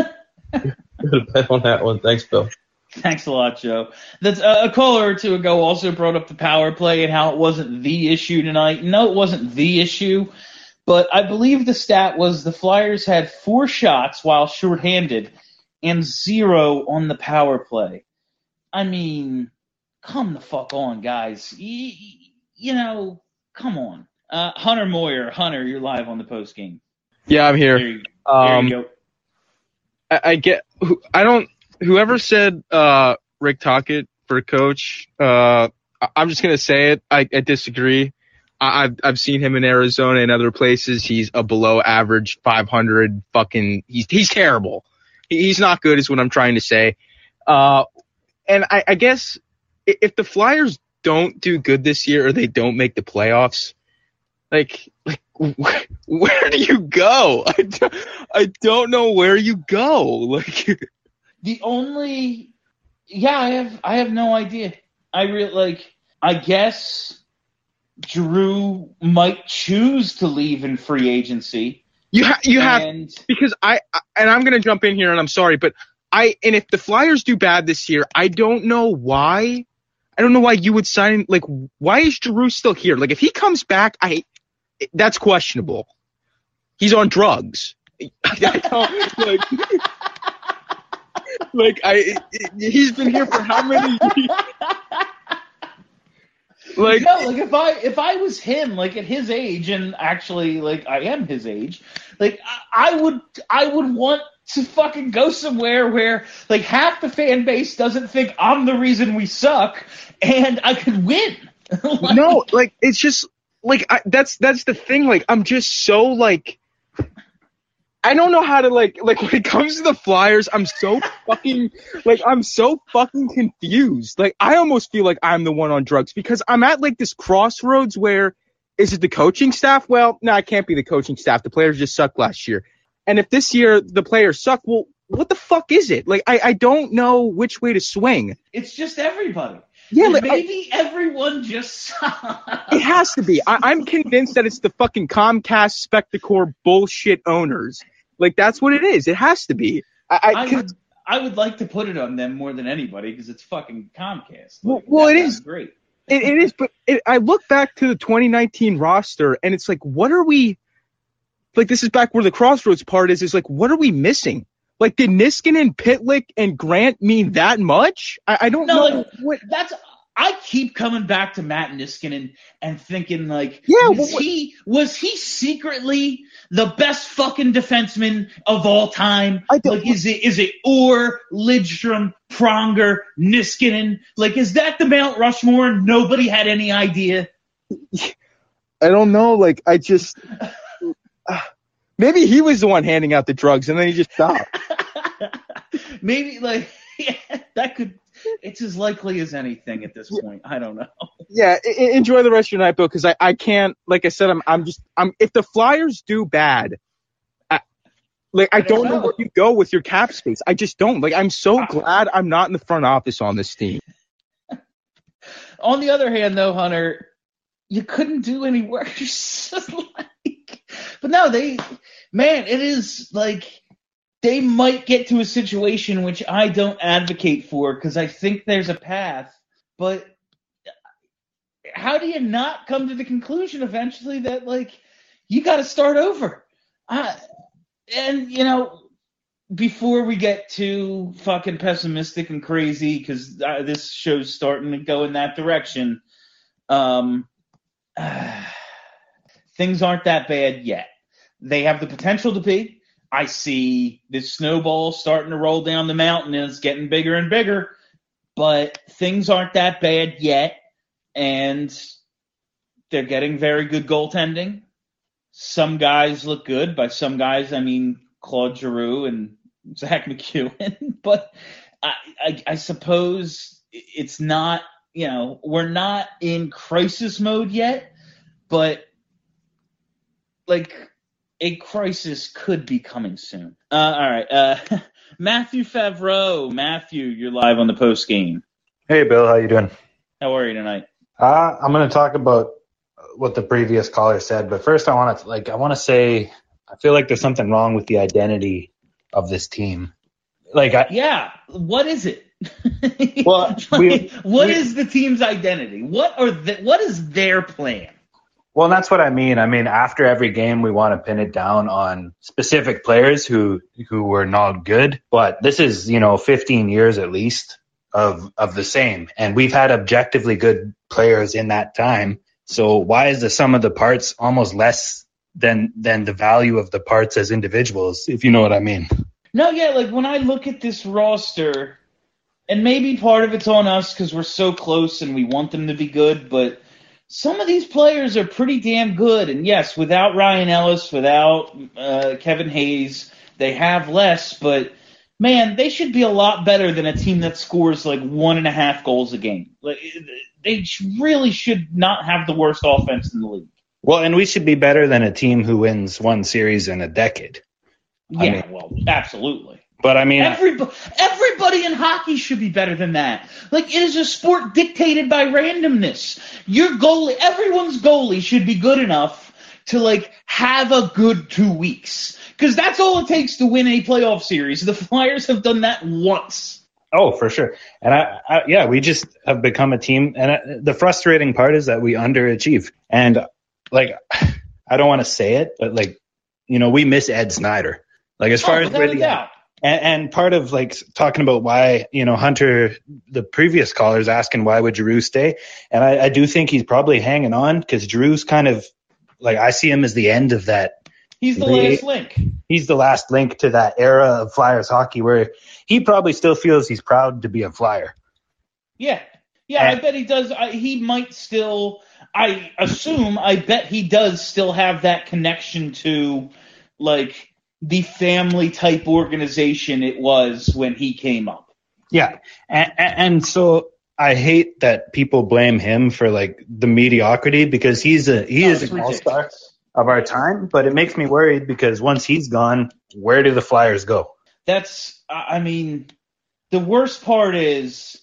[SPEAKER 12] to bet on that one. Thanks, Bill.
[SPEAKER 2] Thanks a lot, Joe. That's a caller or two ago also brought up the power play and how it wasn't the issue tonight. No, it wasn't the issue. But I believe the stat was the Flyers had 4 shots while shorthanded and 0 on the power play. I mean, come the fuck on, guys. Come on. Hunter Moyer. Hunter, you're live on the post game.
[SPEAKER 13] Yeah, I'm here.
[SPEAKER 2] There you
[SPEAKER 13] go. Whoever said Rick Tocchet for coach, I'm just going to say it. I disagree. I've seen him in Arizona and other places. He's a below average 500 fucking. He's terrible. He's not good, is what I'm trying to say. And I guess if the Flyers don't do good this year or they don't make the playoffs, where do you go? I don't know where you go.
[SPEAKER 2] I have no idea. I guess Giroux might choose to leave in free agency.
[SPEAKER 13] You have because I'm going to jump in here and I'm sorry, but if the Flyers do bad this year, I don't know why. I don't know why you would sign. Why is Giroux still here? If he comes back, that's questionable. He's on drugs. He's been here for how many years?
[SPEAKER 2] If I was him, at his age, and actually, I am his age, I would want to fucking go somewhere where, half the fan base doesn't think I'm the reason we suck, and I could win.
[SPEAKER 13] No, it's just, that's the thing, I'm just so, I don't know how to, when it comes to the Flyers, I'm so fucking confused. I almost feel like I'm the one on drugs because I'm at, this crossroads where, is it the coaching staff? Well, no, it can't be the coaching staff. The players just sucked last year. And if this year the players suck, well, what the fuck is it? I don't know which way to swing.
[SPEAKER 2] It's just everybody.
[SPEAKER 13] Yeah,
[SPEAKER 2] maybe everyone just sucks.
[SPEAKER 13] It has to be. I'm convinced that it's the fucking Comcast Spectacor bullshit owners. That's what it is. It has to be.
[SPEAKER 2] I would like to put it on them more than anybody because it's fucking Comcast.
[SPEAKER 13] Well, it is
[SPEAKER 2] great.
[SPEAKER 13] It is, but I look back to the 2019 roster, and it's what are we? This is back where the crossroads part is what are we missing? Did Niskanen, Pitlick, and Grant mean that much? I don't know.
[SPEAKER 2] I keep coming back to Matt Niskanen and thinking was he secretly the best fucking defenseman of all time? Is it Orr, Lidstrom, Pronger, Niskanen? Is that the Mount Rushmore and nobody had any idea?
[SPEAKER 13] I don't know. I just maybe he was the one handing out the drugs and then he just stopped.
[SPEAKER 2] Maybe that could. it's as likely as anything at this point. I don't know.
[SPEAKER 13] Yeah, enjoy the rest of your night, Bill, because I can't. Like I said, I'm if the Flyers do bad, I don't know where you go with your cap space. I just don't. Like, I'm so glad I'm not in the front office on this team.
[SPEAKER 2] On the other hand, though, Hunter, you couldn't do any worse. But no, it is like they might get to a situation which I don't advocate for because I think there's a path. But how do you not come to the conclusion eventually that, like, you got to start over? And, before we get too fucking pessimistic and crazy, because this show's starting to go in that direction, things aren't that bad yet. They have the potential to be. I see this snowball starting to roll down the mountain, and it's getting bigger and bigger, but things aren't that bad yet, and they're getting very good goaltending. Some guys look good. By some guys, I mean Claude Giroux and Zach McEwen. But I suppose it's not, we're not in crisis mode yet, but like a crisis could be coming soon. All right. Matthew Favreau. Matthew, you're live on the post game.
[SPEAKER 14] Hey, Bill. How you doing?
[SPEAKER 2] How are you tonight?
[SPEAKER 14] I'm going to talk about what the previous caller said, but first I want to say I feel like there's something wrong with the identity of this team.
[SPEAKER 2] What is it? Well, what is the team's identity? What is their plan?
[SPEAKER 14] Well, that's what I mean. I mean, after every game, we want to pin it down on specific players who were not good, but this is 15 years at least of the same, and we've had objectively good players in that time. So why is the sum of the parts almost less than the value of the parts as individuals, if you know what I mean?
[SPEAKER 2] No, yeah, like when I look at this roster, and maybe part of it's on us because we're so close and we want them to be good, but some of these players are pretty damn good. And yes, without Ryan Ellis, without Kevin Hayes, they have less, but man, they should be a lot better than a team that scores like 1.5 goals a game. Like, they really should not have the worst offense in the league.
[SPEAKER 14] Well, and we should be better than a team who wins one series in a decade.
[SPEAKER 2] Yeah, absolutely.
[SPEAKER 14] But I mean,
[SPEAKER 2] everybody in hockey should be better than that. Like, it is a sport dictated by randomness. Your goalie, everyone's goalie should be good enough to like have a good 2 weeks. Because that's all it takes to win a playoff series. The Flyers have done that once.
[SPEAKER 14] Oh, for sure. And we just have become a team. And the frustrating part is that we underachieve. And like, I don't want to say it, but like, we miss Ed Snyder. Like, as far as where the and part of like talking about why, Hunter, the previous caller's asking why would Giroux stay, and I do think he's probably hanging on because Giroux's kind of like, I see him as the end of that.
[SPEAKER 2] He's the last link.
[SPEAKER 14] He's the last link to that era of Flyers hockey where he probably still feels he's proud to be a Flyer.
[SPEAKER 2] Yeah. Yeah, I bet he does. He might still, I bet he does still have that connection to, like, the family type organization it was when he came up.
[SPEAKER 14] Yeah. And so I hate that people blame him for, like, the mediocrity because he is an all-star of our time, but it makes me worried because once he's gone, where do the Flyers go?
[SPEAKER 2] The worst part is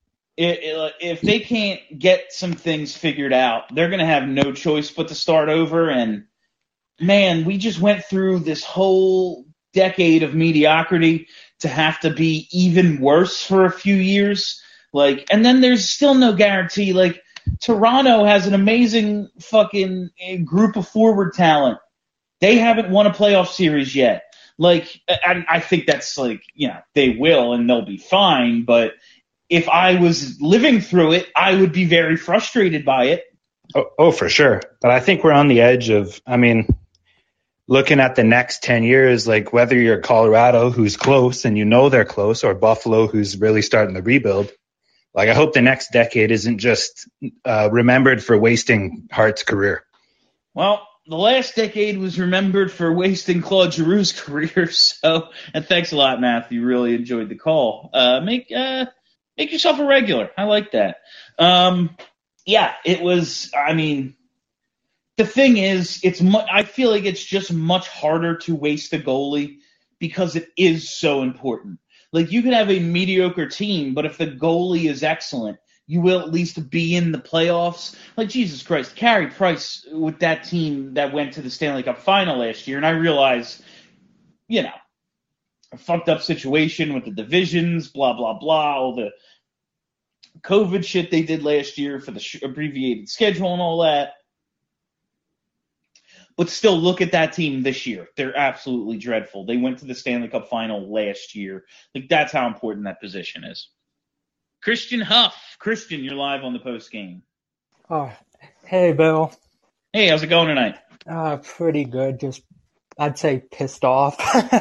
[SPEAKER 2] if they can't get some things figured out, they're going to have no choice but to start over. And man, we just went through this whole decade of mediocrity to have to be even worse for a few years. Like, and then there's still no guarantee. Like, Toronto has an amazing fucking group of forward talent. They haven't won a playoff series yet. Like, I think that's like, they will and they'll be fine. But if I was living through it, I would be very frustrated by it.
[SPEAKER 14] Oh, for sure. But I think we're on the edge of, looking at the next 10 years, like whether you're Colorado, who's close and they're close, or Buffalo, who's really starting to rebuild. Like, I hope the next decade isn't just remembered for wasting Hart's career.
[SPEAKER 2] Well, the last decade was remembered for wasting Claude Giroux's career. So, and thanks a lot, Matthew. Really enjoyed the call. Make yourself a regular. I like that. Yeah, it was. I mean, the thing is, I feel like it's just much harder to waste a goalie because it is so important. Like, you can have a mediocre team, but if the goalie is excellent, you will at least be in the playoffs. Like, Jesus Christ, Carey Price with that team that went to the Stanley Cup final last year, and I realize, you know, a fucked up situation with the divisions, blah, blah, blah, all the COVID shit they did last year for the abbreviated schedule and all that. But still, look at that team this year. They're absolutely dreadful. They went to the Stanley Cup final last year. Like, that's how important that position is. Christian Huff. Christian, you're live on the post game.
[SPEAKER 15] Oh, hey, Bill.
[SPEAKER 2] Hey, how's it going tonight?
[SPEAKER 15] Pretty good. Just, I'd say pissed off.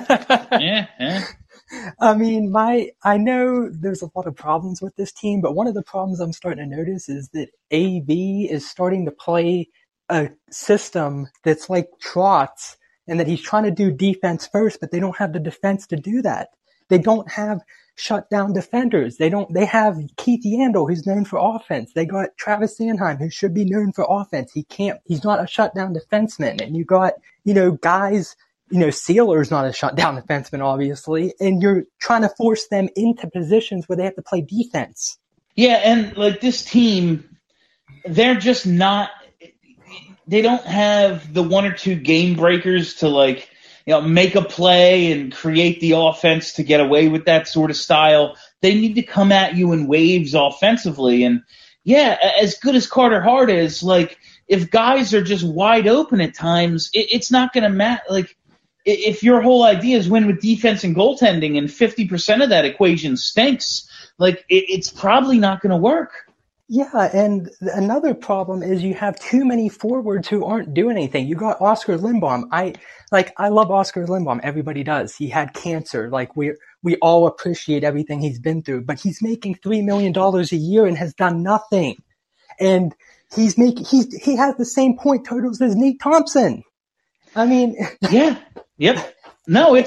[SPEAKER 2] Yeah.
[SPEAKER 15] I mean, I know there's a lot of problems with this team, but one of the problems I'm starting to notice is that AB is starting to play a system that's like Trotz, and that he's trying to do defense first, but they don't have the defense to do that. They don't have shutdown defenders. They have Keith Yandel, who's known for offense. They got Travis Sanheim, who should be known for offense. He's not a shutdown defenseman. And you got, guys, Sealer's not a shutdown defenseman, obviously, and you're trying to force them into positions where they have to play defense.
[SPEAKER 2] Yeah, and like this team, they're just not, they don't have the one or two game breakers to make a play and create the offense to get away with that sort of style. They need to come at you in waves offensively. And yeah, as good as Carter Hart is, like, if guys are just wide open at times, it's not going to matter. Like, if your whole idea is win with defense and goaltending and 50% of that equation stinks, like, it's probably not going to work.
[SPEAKER 15] Yeah, and another problem is you have too many forwards who aren't doing anything. You got Oscar Lindblom. I love Oscar Lindblom. Everybody does. He had cancer. Like, we all appreciate everything he's been through, but he's making $3 million a year and has done nothing. And he has the same point totals as Nate Thompson. I mean,
[SPEAKER 2] yeah. Yep. No,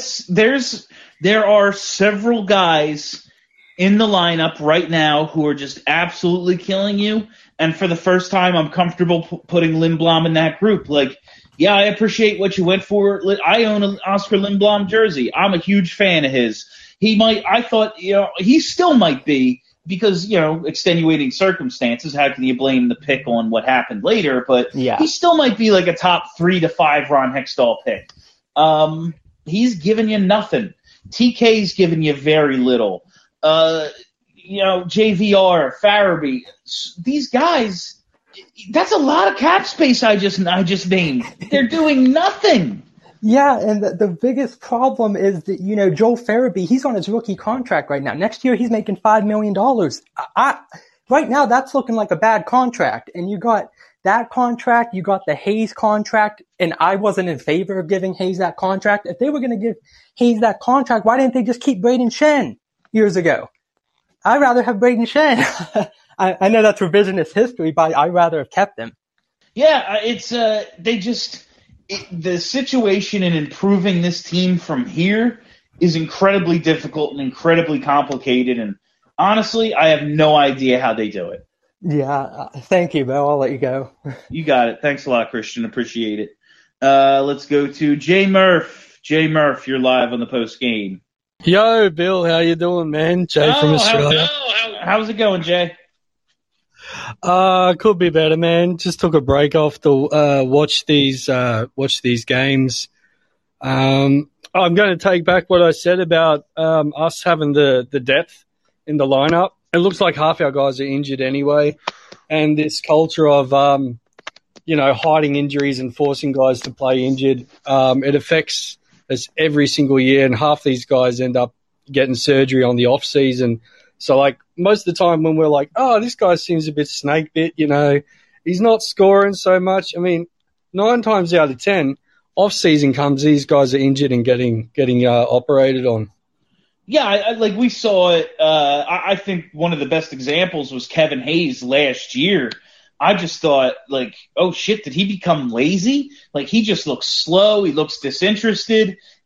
[SPEAKER 2] there are several guys in the lineup right now who are just absolutely killing you. And for the first time, I'm comfortable putting Lindblom in that group. Like, yeah, I appreciate what you went for. I own an Oscar Lindblom jersey. I'm a huge fan of his. He still might be because, extenuating circumstances. How can you blame the pick on what happened later? But
[SPEAKER 15] yeah,
[SPEAKER 2] he still might be like a top 3 to 5 Ron Hextall pick. He's given you nothing. TK's given you very little. JVR, Farabee, these guys, that's a lot of cap space I just named. They're doing nothing.
[SPEAKER 15] Yeah, and the biggest problem is that, Joel Farabee, he's on his rookie contract right now. Next year, he's making $5 million. Right now, that's looking like a bad contract. And you got that contract, you got the Hayes contract, and I wasn't in favor of giving Hayes that contract. If they were going to give Hayes that contract, why didn't they just keep Braden Shen years ago? I'd rather have Braden Shen. I know that's revisionist history, but I'd rather have kept him.
[SPEAKER 2] Yeah, the situation in improving this team from here is incredibly difficult and incredibly complicated, and honestly, I have no idea how they do it.
[SPEAKER 15] Yeah, thank you, Bill. I'll let you go.
[SPEAKER 2] You got it. Thanks a lot, Christian. Appreciate it. Let's go to Jay Murph. Jay Murph, you're live on the post game.
[SPEAKER 16] Yo, Bill, how you doing, man? Jay from Australia.
[SPEAKER 2] How's it going, Jay?
[SPEAKER 16] Could be better, man. Just took a break off to watch these games. I'm going to take back what I said about us having the depth in the lineup. It looks like half our guys are injured anyway, and this culture of hiding injuries and forcing guys to play injured, it affects us every single year, and half these guys end up getting surgery on the off season. So, like, most of the time when we're like, oh, this guy seems a bit snake bit, he's not scoring so much. I mean, 9 times out of 10, off season comes, these guys are injured and getting operated on.
[SPEAKER 2] Yeah, we saw it. I think one of the best examples was Kevin Hayes last year. I just thought, oh, shit, did he become lazy? Like, he just looks slow. He looks disinterested.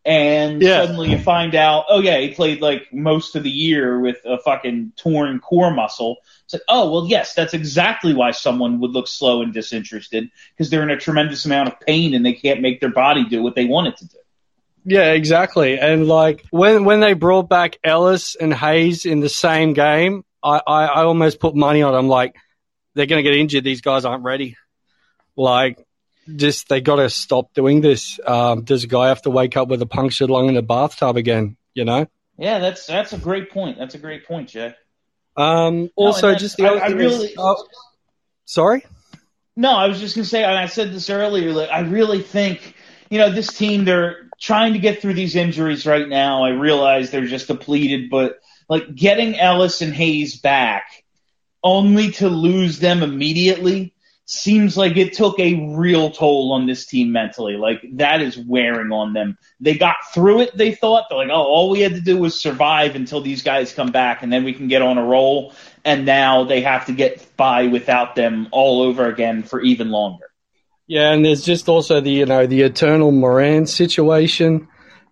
[SPEAKER 2] And suddenly you find out, oh yeah, he played like most of the year with a fucking torn core muscle. It's like, oh, well, yes, that's exactly why someone would look slow and disinterested, because they're in a tremendous amount of pain and they can't make their body do what they want it to do.
[SPEAKER 16] Yeah, exactly. And like when they brought back Ellis and Hayes in the same game, I almost put money on them. Like, they're going to get injured. These guys aren't ready. Like, just they got to stop doing this. Does a guy have to wake up with a punctured lung in a bathtub again? You know?
[SPEAKER 2] Yeah, that's a great point. That's a great point, Jay.
[SPEAKER 16] Also, just the other thing is, sorry?
[SPEAKER 2] No, I was just going to say, and I said this earlier, like, I really think, this team, they're trying to get through these injuries right now. I realize they're just depleted, but like getting Ellis and Hayes back only to lose them immediately seems like it took a real toll on this team mentally. Like, that is wearing on them. They got through it, they thought. They're like, oh, all we had to do was survive until these guys come back, and then we can get on a roll. And now they have to get by without them all over again for even longer.
[SPEAKER 16] Yeah, and there's just also the eternal Moran situation.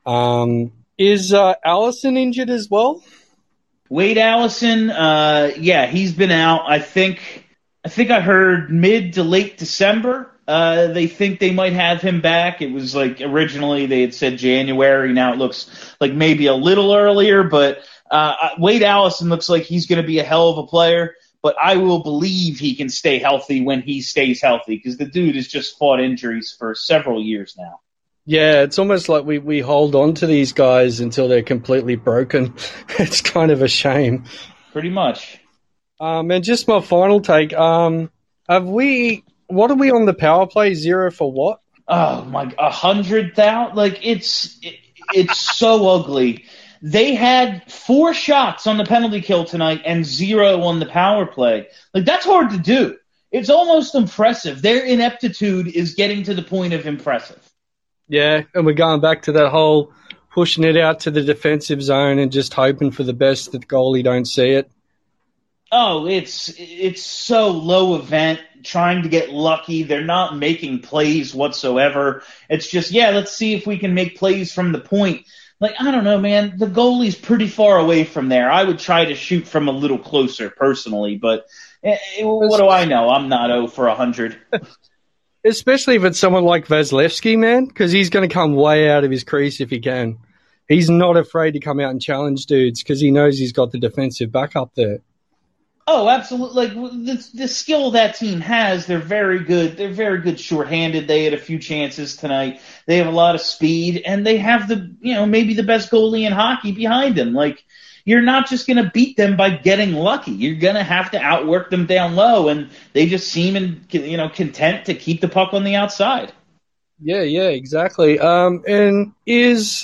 [SPEAKER 16] Is Allison injured as well?
[SPEAKER 2] Wade Allison, he's been out. I think I heard mid to late December. They think they might have him back. It was like originally they had said January. Now it looks like maybe a little earlier, but Wade Allison looks like he's going to be a hell of a player. But I will believe he can stay healthy when he stays healthy, because the dude has just fought injuries for several years now.
[SPEAKER 16] Yeah, it's almost like we hold on to these guys until they're completely broken. It's kind of a shame.
[SPEAKER 2] Pretty much.
[SPEAKER 16] And just my final take. What are we on the power play? 0 for what?
[SPEAKER 2] Oh my, 100,000. Like, it's so ugly. They had 4 shots on the penalty kill tonight and 0 on the power play. Like, that's hard to do. It's almost impressive. Their ineptitude is getting to the point of impressive.
[SPEAKER 16] Yeah, and we're going back to that whole pushing it out to the defensive zone and just hoping for the best that the goalie don't see it.
[SPEAKER 2] Oh, it's so low event, trying to get lucky. They're not making plays whatsoever. It's just, let's see if we can make plays from the point. Like, I don't know, man. The goalie's pretty far away from there. I would try to shoot from a little closer, personally, but what do I know? I'm not 0 for 100.
[SPEAKER 16] Especially if it's someone like Vasilevsky, man, because he's going to come way out of his crease if he can. He's not afraid to come out and challenge dudes because he knows he's got the defensive backup there.
[SPEAKER 2] Oh, absolutely. Like, the skill that team has, they're very good. They're very good shorthanded. They had a few chances tonight. They have a lot of speed, and they have maybe the best goalie in hockey behind them. Like, you're not just going to beat them by getting lucky. You're going to have to outwork them down low, and they just seem content to keep the puck on the outside.
[SPEAKER 16] Yeah, exactly. And is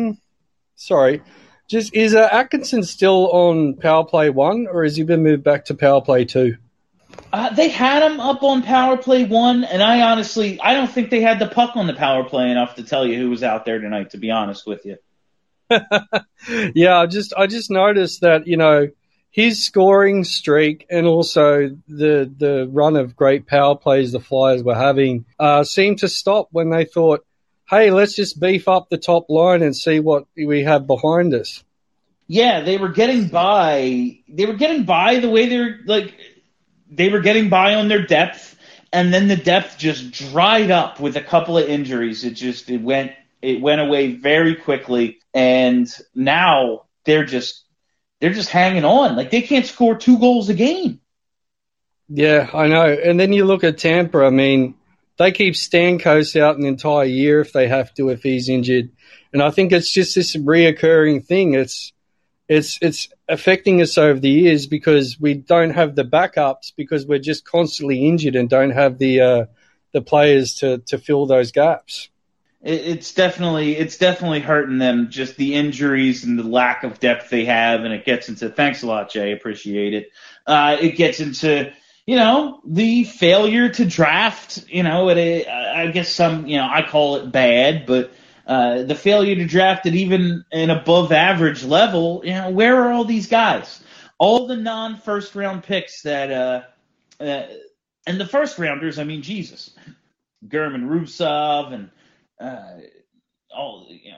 [SPEAKER 16] Atkinson still on power play 1, or has he been moved back to power play 2?
[SPEAKER 2] They had him up on power play 1, and I don't think they had the puck on the power play enough to tell you who was out there tonight, to be honest with you.
[SPEAKER 16] Yeah, I just noticed that, his scoring streak and also the run of great power plays the Flyers were having seemed to stop when they thought, hey, let's just beef up the top line and see what we have behind us.
[SPEAKER 2] Yeah, they were getting by. They were getting by the way they were getting by on their depth, and then the depth just dried up with a couple of injuries. It went away very quickly, and now they're just hanging on. Like, they can't score 2 goals a game.
[SPEAKER 16] Yeah, I know. And then you look at Tampa. I mean, they keep Stamkos out an entire year if they have to, if he's injured. And I think it's just this reoccurring thing. It's affecting us over the years because we don't have the backups because we're just constantly injured and don't have the players to fill those gaps.
[SPEAKER 2] It's definitely hurting them, just the injuries and the lack of depth they have, and it gets into, thanks a lot, Jay, appreciate it. It gets into, the failure to draft, I guess some, I call it bad, but the failure to draft at even an above average level, where are all these guys? All the non-first round picks that, and the first rounders, I mean, Jesus, German Rubtsov and,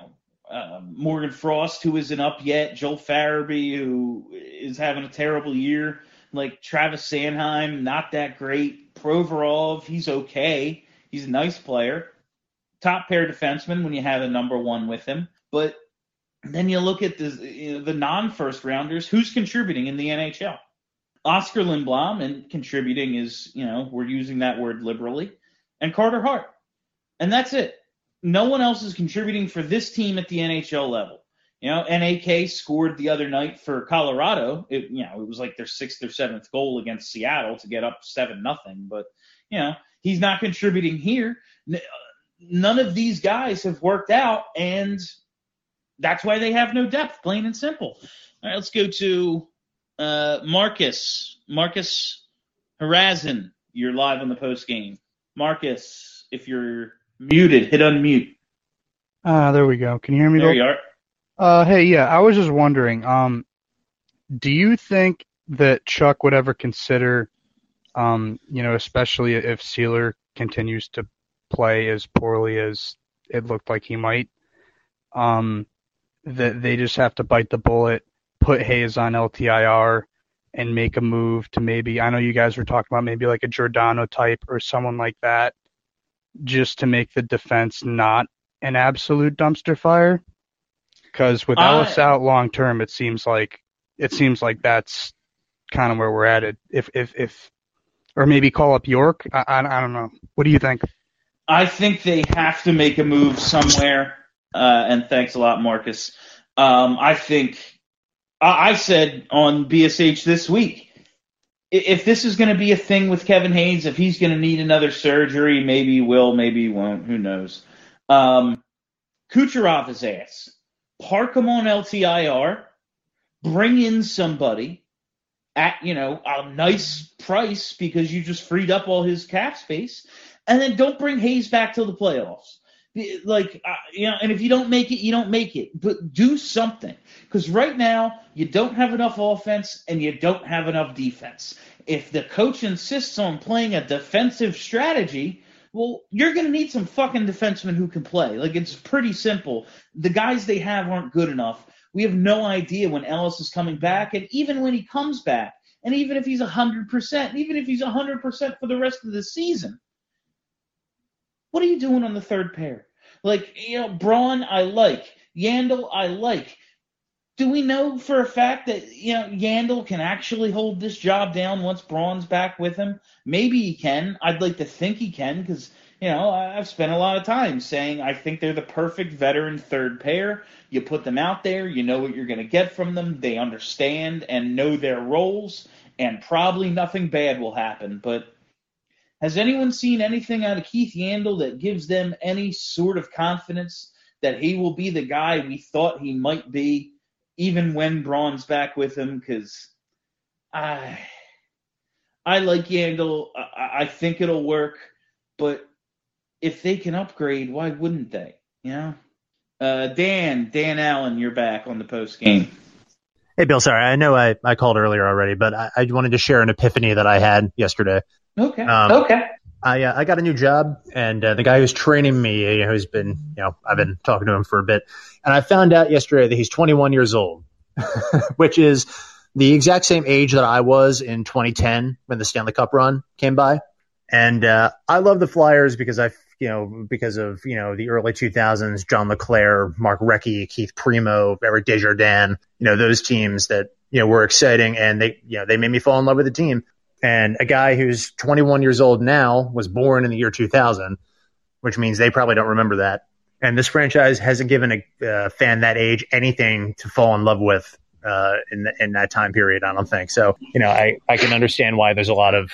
[SPEAKER 2] Morgan Frost, who isn't up yet, Joel Farabee, who is having a terrible year, like Travis Sanheim, not that great. Provorov, he's okay. He's a nice player. Top pair defenseman when you have a number one with him. But then you look at the non-first rounders, who's contributing in the NHL? Oscar Lindblom, and contributing is, we're using that word liberally, and Carter Hart. And that's it. No one else is contributing for this team at the NHL level. NAK scored the other night for Colorado. It was like their 6th or 7th goal against Seattle to get up 7-0. But, he's not contributing here. None of these guys have worked out, and that's why they have no depth, plain and simple. All right, let's go to Marcus. Marcus Harazin, you're live on the post game. Marcus, if you're muted, hit unmute.
[SPEAKER 17] There we go. Can you hear me?
[SPEAKER 2] There you are.
[SPEAKER 17] Hey, yeah, I was just wondering, do you think that Chuck would ever consider, especially if Sealer continues to play as poorly as it looked like he might, that they just have to bite the bullet, put Hayes on LTIR, and make a move to maybe, I know you guys were talking about maybe like a Giordano type or someone like that, just to make the defense not an absolute dumpster fire? Because with Ellis out long term, it seems like that's kind of where we're at. If or maybe call up York. I don't know. What do you think?
[SPEAKER 2] I think they have to make a move somewhere. And thanks a lot, Marcus. I think I said on BSH this week, if this is going to be a thing with Kevin Hayes, if he's going to need another surgery, maybe he will, maybe he won't. Who knows? Kucherov his ass. Park him on LTIR. Bring in somebody at, a nice price because you just freed up all his cap space. And then don't bring Hayes back till the playoffs. And if you don't make it, you don't make it. But do something. Because right now, you don't have enough offense and you don't have enough defense. If the coach insists on playing a defensive strategy, well, you're going to need some fucking defensemen who can play. It's pretty simple. The guys they have aren't good enough. We have no idea when Ellis is coming back. And even when he comes back, and even if he's 100%, and even if he's 100% for the rest of the season, what are you doing on the third pair? Braun, I like. Yandel, I like. Do we know for a fact that, Yandel can actually hold this job down once Braun's back with him? Maybe he can. I'd like to think he can because, I've spent a lot of time saying I think they're the perfect veteran third pair. You put them out there, you know what you're going to get from them. They understand and know their roles, and probably nothing bad will happen. But has anyone seen anything out of Keith Yandel that gives them any sort of confidence that he will be the guy we thought he might be, even when Braun's back with him? Because I like Yandel. I think it'll work. But if they can upgrade, why wouldn't they? Dan Allen, you're back on the post game.
[SPEAKER 5] Hey, Bill, sorry. I know I called earlier already, but I wanted to share an epiphany that I had yesterday.
[SPEAKER 2] Okay.
[SPEAKER 5] I got a new job, and the guy who's training me, who's been, I've been talking to him for a bit, and I found out yesterday that he's 21 years old, which is the exact same age that I was in 2010 when the Stanley Cup run came by. And I love the Flyers because of the early 2000s, John LeClair, Mark Recchi, Keith Primo, Eric Desjardins, those teams that, were exciting, and they made me fall in love with the team. And a guy who's 21 years old now was born in the year 2000, which means they probably don't remember that. And this franchise hasn't given a fan that age anything to fall in love with in that time period, I don't think. So, I can understand why there's a lot of,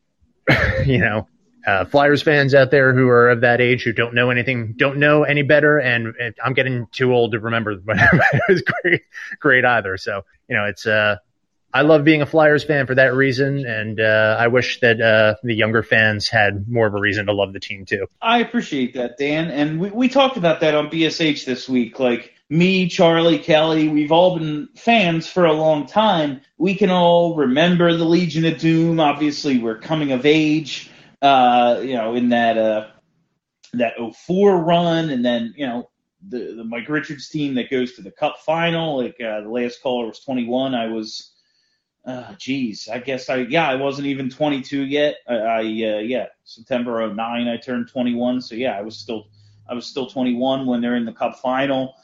[SPEAKER 5] Flyers fans out there who are of that age who don't know any better. And I'm getting too old to remember when it was great either. So, it's I love being a Flyers fan for that reason, and I wish that the younger fans had more of a reason to love the team too.
[SPEAKER 2] I appreciate that, Dan, and we talked about that on BSH this week. Me, Charlie, Kelly, we've all been fans for a long time. We can all remember the Legion of Doom. Obviously, we're coming of age, in that 04 run, and then the Mike Richards team that goes to the Cup final. Like the last caller was 21. I was, I wasn't even 22 yet. September of 09 I turned 21. So yeah, I was still 21 when they're in the Cup final.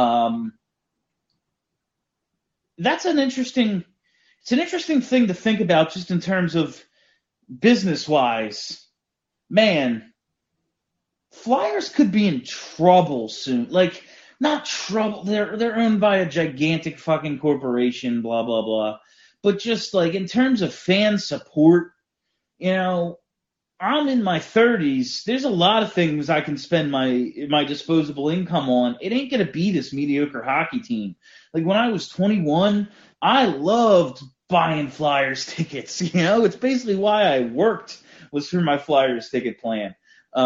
[SPEAKER 2] That's an interesting thing to think about just in terms of business-wise. Man, Flyers could be in trouble soon. Like, not trouble. They're owned by a gigantic fucking corporation, blah, blah, blah. But just, like, in terms of fan support, I'm in my 30s. There's a lot of things I can spend my disposable income on. It ain't going to be this mediocre hockey team. Like, when I was 21, I loved buying Flyers tickets. It's basically why I worked, was through my Flyers ticket plan.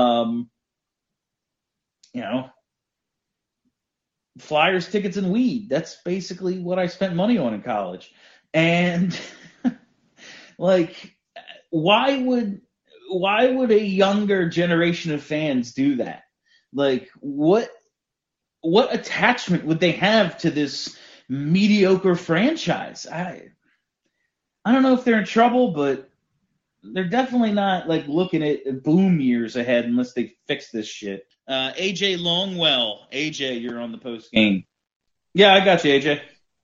[SPEAKER 2] Flyers tickets and weed. That's basically what I spent money on in college. And like, why would a younger generation of fans do that? Like, what attachment would they have to this mediocre franchise? I don't know if they're in trouble, but they're definitely not like looking at boom years ahead unless they fix this shit. AJ Longwell. AJ, you're on the post game. Yeah, I got you, AJ.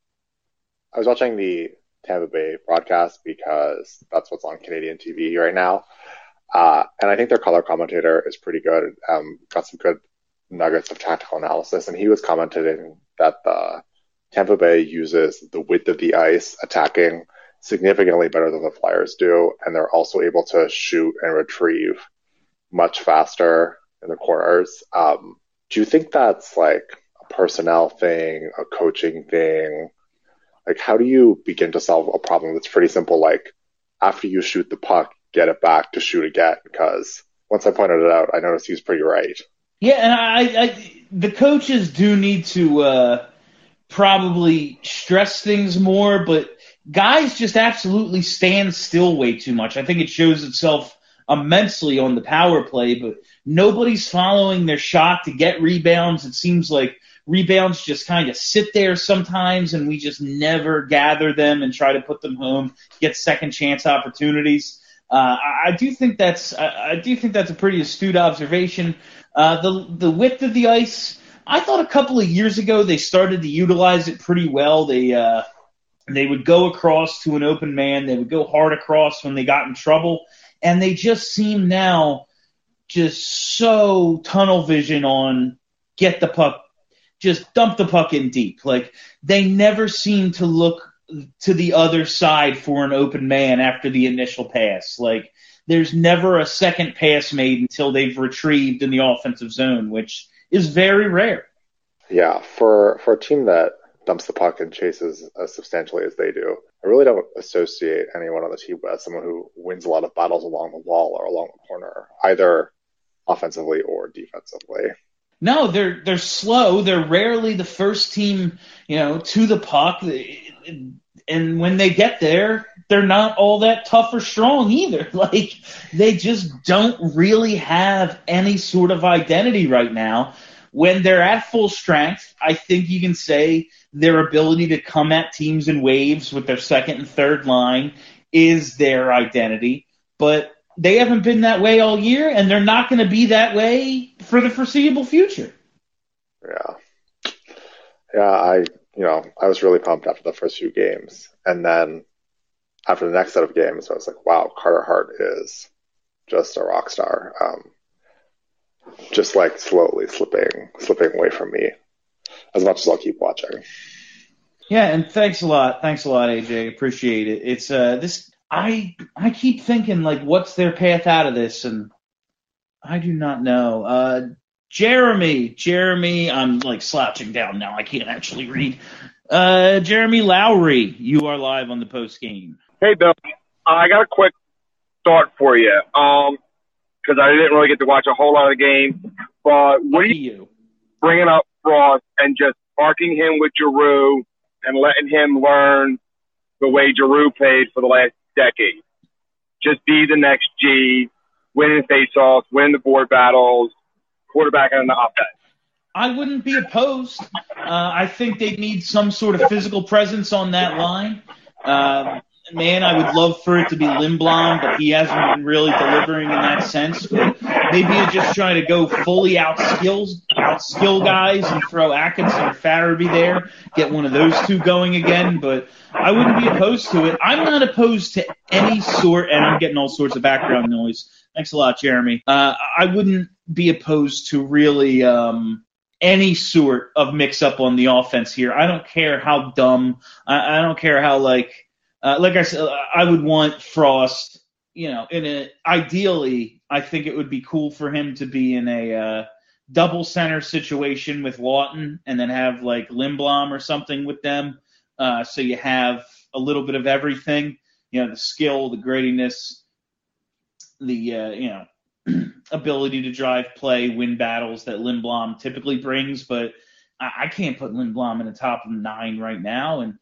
[SPEAKER 18] I was watching the Tampa Bay broadcast because that's what's on Canadian TV right now. And I think their color commentator is pretty good. Got some good nuggets of tactical analysis. And he was commenting that the Tampa Bay uses the width of the ice attacking significantly better than the Flyers do. And they're also able to shoot and retrieve much faster in the corners. Do you think that's like a personnel thing, a coaching thing? Like, how do you begin to solve a problem that's pretty simple? Like, after you shoot the puck, get it back to shoot again. Because once I pointed it out, I noticed he was pretty right.
[SPEAKER 2] Yeah, and I the coaches do need to probably stress things more, but guys just absolutely stand still way too much. I think it shows itself immensely on the power play, but nobody's following their shot to get rebounds. It seems like rebounds just kind of sit there sometimes, and we just never gather them and try to put them home, get second chance opportunities. I do think that's a pretty astute observation. The width of the ice, I thought a couple of years ago they started to utilize it pretty well. They would go across to an open man. They would go hard across when they got in trouble. And they just seem now just so tunnel vision on get the puck, just dump the puck in deep. Like, they never seem to look to the other side for an open man after the initial pass. Like, there's never a second pass made until they've retrieved in the offensive zone, which is very rare.
[SPEAKER 18] Yeah, for a team that dumps the puck and chases as substantially as they do, I really don't associate anyone on the team as someone who wins a lot of battles along the wall or along the corner, either offensively or defensively.
[SPEAKER 2] No, they're slow. They're rarely the first team, to the puck. And when they get there, they're not all that tough or strong either. Like, they just don't really have any sort of identity right now. When they're at full strength, I think you can say their ability to come at teams in waves with their second and third line is their identity. But they haven't been that way all year, and they're not going to be that way for the foreseeable future.
[SPEAKER 18] Yeah, I was really pumped after the first few games. And then after the next set of games, I was like, wow, Carter Hart is just a rock star. Just like slowly slipping away from me as much as I'll keep watching.
[SPEAKER 2] Yeah, and thanks a lot, AJ. Appreciate it. It's I keep thinking, like, what's their path out of this, and I do not know. Jeremy, I'm like slouching down now. I can't actually read. Jeremy Lowry, you are live on the post game.
[SPEAKER 19] Hey, Bill. I got a quick thought for you. Because I didn't really get to watch a whole lot of the game. But what do you bringing up Frost and just parking him with Giroux and letting him learn the way Giroux played for the last decade? Just be the next G, winning faceoffs, winning the board battles, quarterback on the offense.
[SPEAKER 2] I wouldn't be opposed. I think they need some sort of physical presence on that line. Man, I would love for it to be Lindblom, but he hasn't been really delivering in that sense. But maybe you just try to go fully outskill guys and throw Atkinson or Farabee there, get one of those two going again. But I wouldn't be opposed to it. I'm not opposed to any sort, and I'm getting all sorts of background noise. Thanks a lot, Jeremy. I wouldn't be opposed to really any sort of mix-up on the offense here. I don't care how dumb. I don't care how, like I said, I would want Frost, ideally, I think it would be cool for him to be in a double center situation with Lawton and then have, like, Lindblom or something with them. So you have a little bit of everything, the skill, the grittiness, the, ability to drive play, win battles that Lindblom typically brings. But I can't put Lindblom in the top of the 9 right now. And,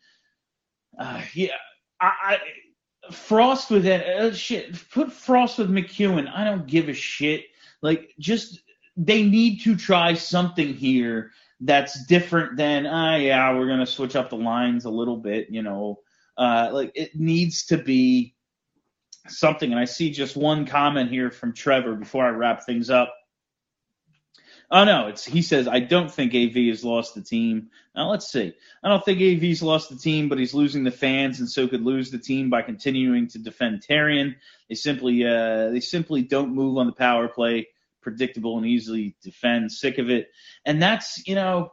[SPEAKER 2] Frost with that put Frost with McEwen. I don't give a shit. Like, just they need to try something here that's different than we're gonna switch up the lines a little bit. Like, it needs to be something. And I see just one comment here from Trevor before I wrap things up. Oh, no, he says, I don't think AV has lost the team. Now, let's see. I don't think AV's lost the team, but he's losing the fans and so could lose the team by continuing to defend Therrien. They simply don't move on the power play, predictable and easily defend. Sick of it. And that's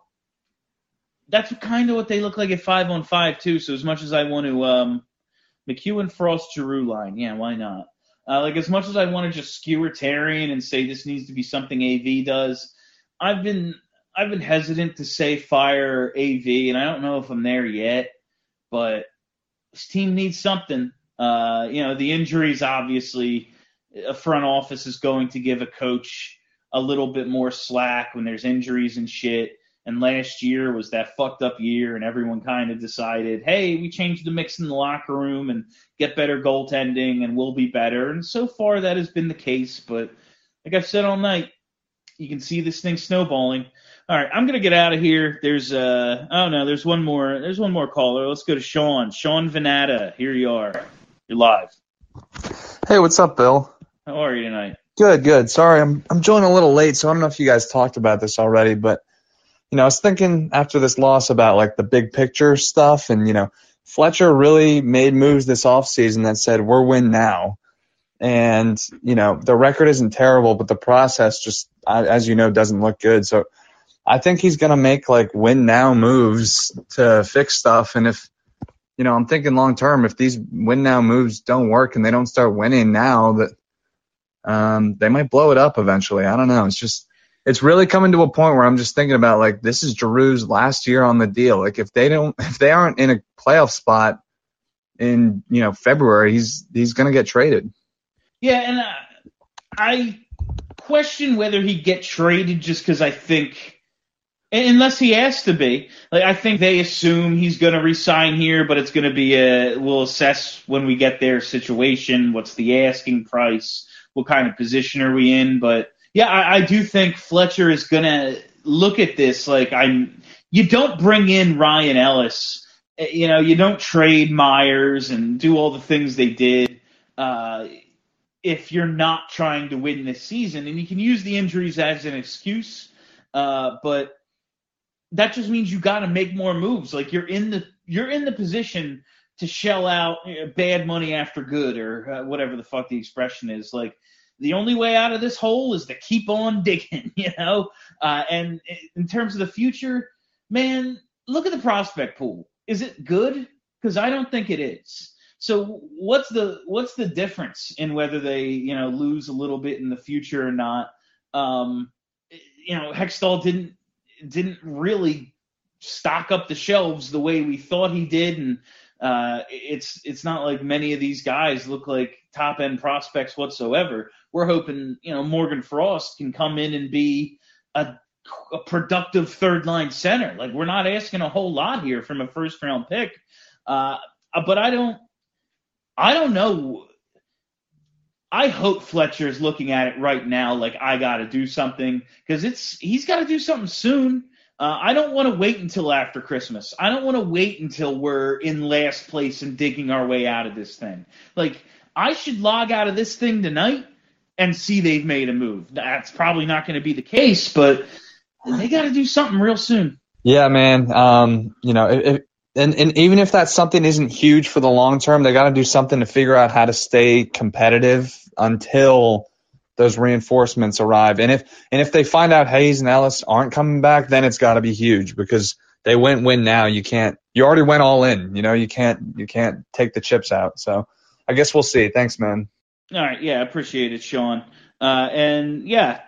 [SPEAKER 2] kind of what they look like at 5-on-5 too. So as much as I want to McEwen, Frost, Giroux line, yeah, why not? As much as I want to just skewer Therrien and say this needs to be something AV does, I've been hesitant to say fire AV, and I don't know if I'm there yet, but this team needs something. The injuries, obviously, a front office is going to give a coach a little bit more slack when there's injuries and shit. And last year was that fucked up year, and everyone kind of decided, hey, we changed the mix in the locker room and get better goaltending and we'll be better. And so far that has been the case, but like I've said all night, you can see this thing snowballing. All right, I'm gonna get out of here. There's one more caller. Let's go to Sean. Sean Venata. Here you are. You're live.
[SPEAKER 20] Hey, what's up, Bill?
[SPEAKER 2] How are you tonight?
[SPEAKER 20] Good. Sorry, I'm joining a little late, so I don't know if you guys talked about this already, but I was thinking after this loss about like the big picture stuff, and Fletcher really made moves this offseason that said we're win now. And, the record isn't terrible, but the process just, as doesn't look good. So I think he's going to make like win now moves to fix stuff. And if, I'm thinking long term, if these win now moves don't work and they don't start winning now, that they might blow it up eventually. I don't know. It's really coming to a point where I'm just thinking about like, this is Giroux's last year on the deal. Like if they aren't in a playoff spot in, February, he's going to get traded.
[SPEAKER 2] Yeah, and I question whether he'd get traded just because I think, unless he has to be, like I think they assume he's going to resign here, but it's going to be we'll assess when we get their situation, what's the asking price, what kind of position are we in. But yeah, I do think Fletcher is going to look at this like you don't bring in Ryan Ellis, you don't trade Myers and do all the things they did. If you're not trying to win this season, and you can use the injuries as an excuse, but that just means you got to make more moves. Like you're in the position to shell out bad money after good, or whatever the fuck the expression is. Like the only way out of this hole is to keep on digging, and in terms of the future, man, look at the prospect pool. Is it good? Because I don't think it is. So what's the difference in whether they lose a little bit in the future or not? Hextall didn't really stock up the shelves the way we thought he did, and it's not like many of these guys look like top end prospects whatsoever. We're hoping Morgan Frost can come in and be a productive third line center. Like we're not asking a whole lot here from a first round pick, but I don't know. I hope Fletcher's looking at it right now like I got to do something, because he's got to do something soon. I don't want to wait until after Christmas. I don't want to wait until we're in last place and digging our way out of this thing. Like, I should log out of this thing tonight and see they've made a move. That's probably not going to be the case, but they got to do something real soon.
[SPEAKER 20] Yeah, man. And even if that something isn't huge for the long term, they got to do something to figure out how to stay competitive until those reinforcements arrive. And if they find out Hayes and Ellis aren't coming back, then it's got to be huge, because they win now. You already went all in. You can't take the chips out. So I guess we'll see. Thanks, man.
[SPEAKER 2] All right. Yeah, appreciate it, Sean. And yeah,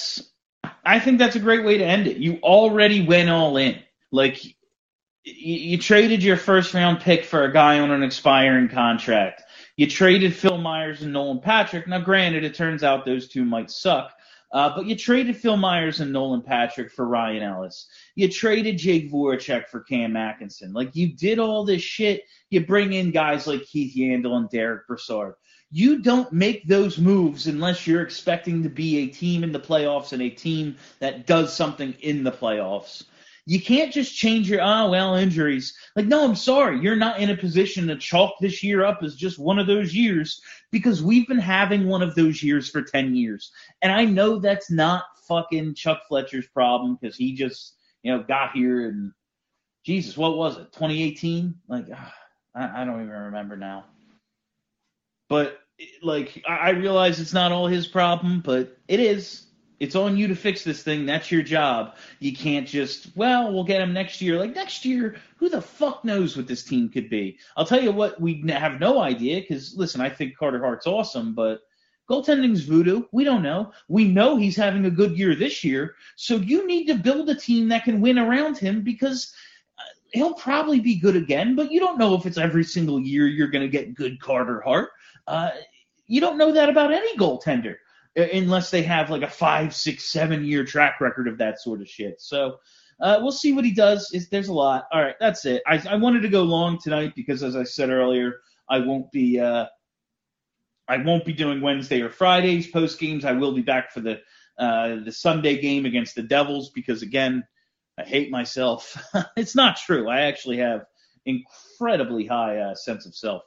[SPEAKER 2] I think that's a great way to end it. You already went all in. Like, you traded your first round pick for a guy on an expiring contract. You traded Phil Myers and Nolan Patrick. Now, granted, it turns out those two might suck, but you traded Phil Myers and Nolan Patrick for Ryan Ellis. You traded Jake Voracek for Cam Atkinson. Like, you did all this shit. You bring in guys like Keith Yandel and Derek Brassard. You don't make those moves unless you're expecting to be a team in the playoffs and a team that does something in the playoffs. You can't just change your, injuries. Like, no, I'm sorry. You're not in a position to chalk this year up as just one of those years, because we've been having one of those years for 10 years. And I know that's not fucking Chuck Fletcher's problem, because he just, got here and, Jesus, what was it, 2018? Like, I don't even remember now. But, like, I realize it's not all his problem, but it is. It's on you to fix this thing. That's your job. You can't just, we'll get him next year. Like, next year, who the fuck knows what this team could be? I'll tell you what, we have no idea, because, listen, I think Carter Hart's awesome, but goaltending's voodoo. We don't know. We know he's having a good year this year, so you need to build a team that can win around him, because he'll probably be good again, but you don't know if it's every single year you're going to get good Carter Hart. You don't know that about any goaltender, unless they have like a 5, 6, 7 year track record of that sort of shit. So we'll see what he does. There's a lot. All right, that's it. I wanted to go long tonight because, as I said earlier, I won't be doing Wednesday or Fridays post games. I will be back for the Sunday game against the Devils, because, again, I hate myself. It's not true. I actually have incredibly high sense of self.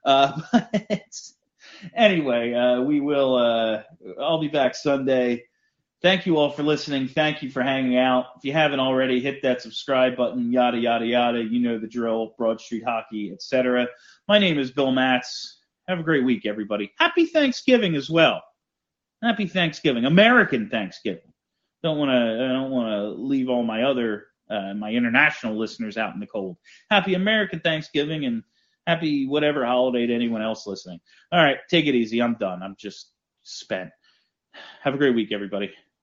[SPEAKER 2] Anyway, I'll be back Sunday. Thank you all for listening. Thank you for hanging out. If you haven't already, hit that subscribe button, yada, yada, yada. You know the drill, Broad Street Hockey, etc. My name is Bill Matz. Have a great week, everybody. Happy Thanksgiving as well. Happy Thanksgiving. American Thanksgiving. I don't want to leave all my other, my international listeners out in the cold. Happy American Thanksgiving, and happy whatever holiday to anyone else listening. All right, take it easy. I'm done. I'm just spent. Have a great week, everybody.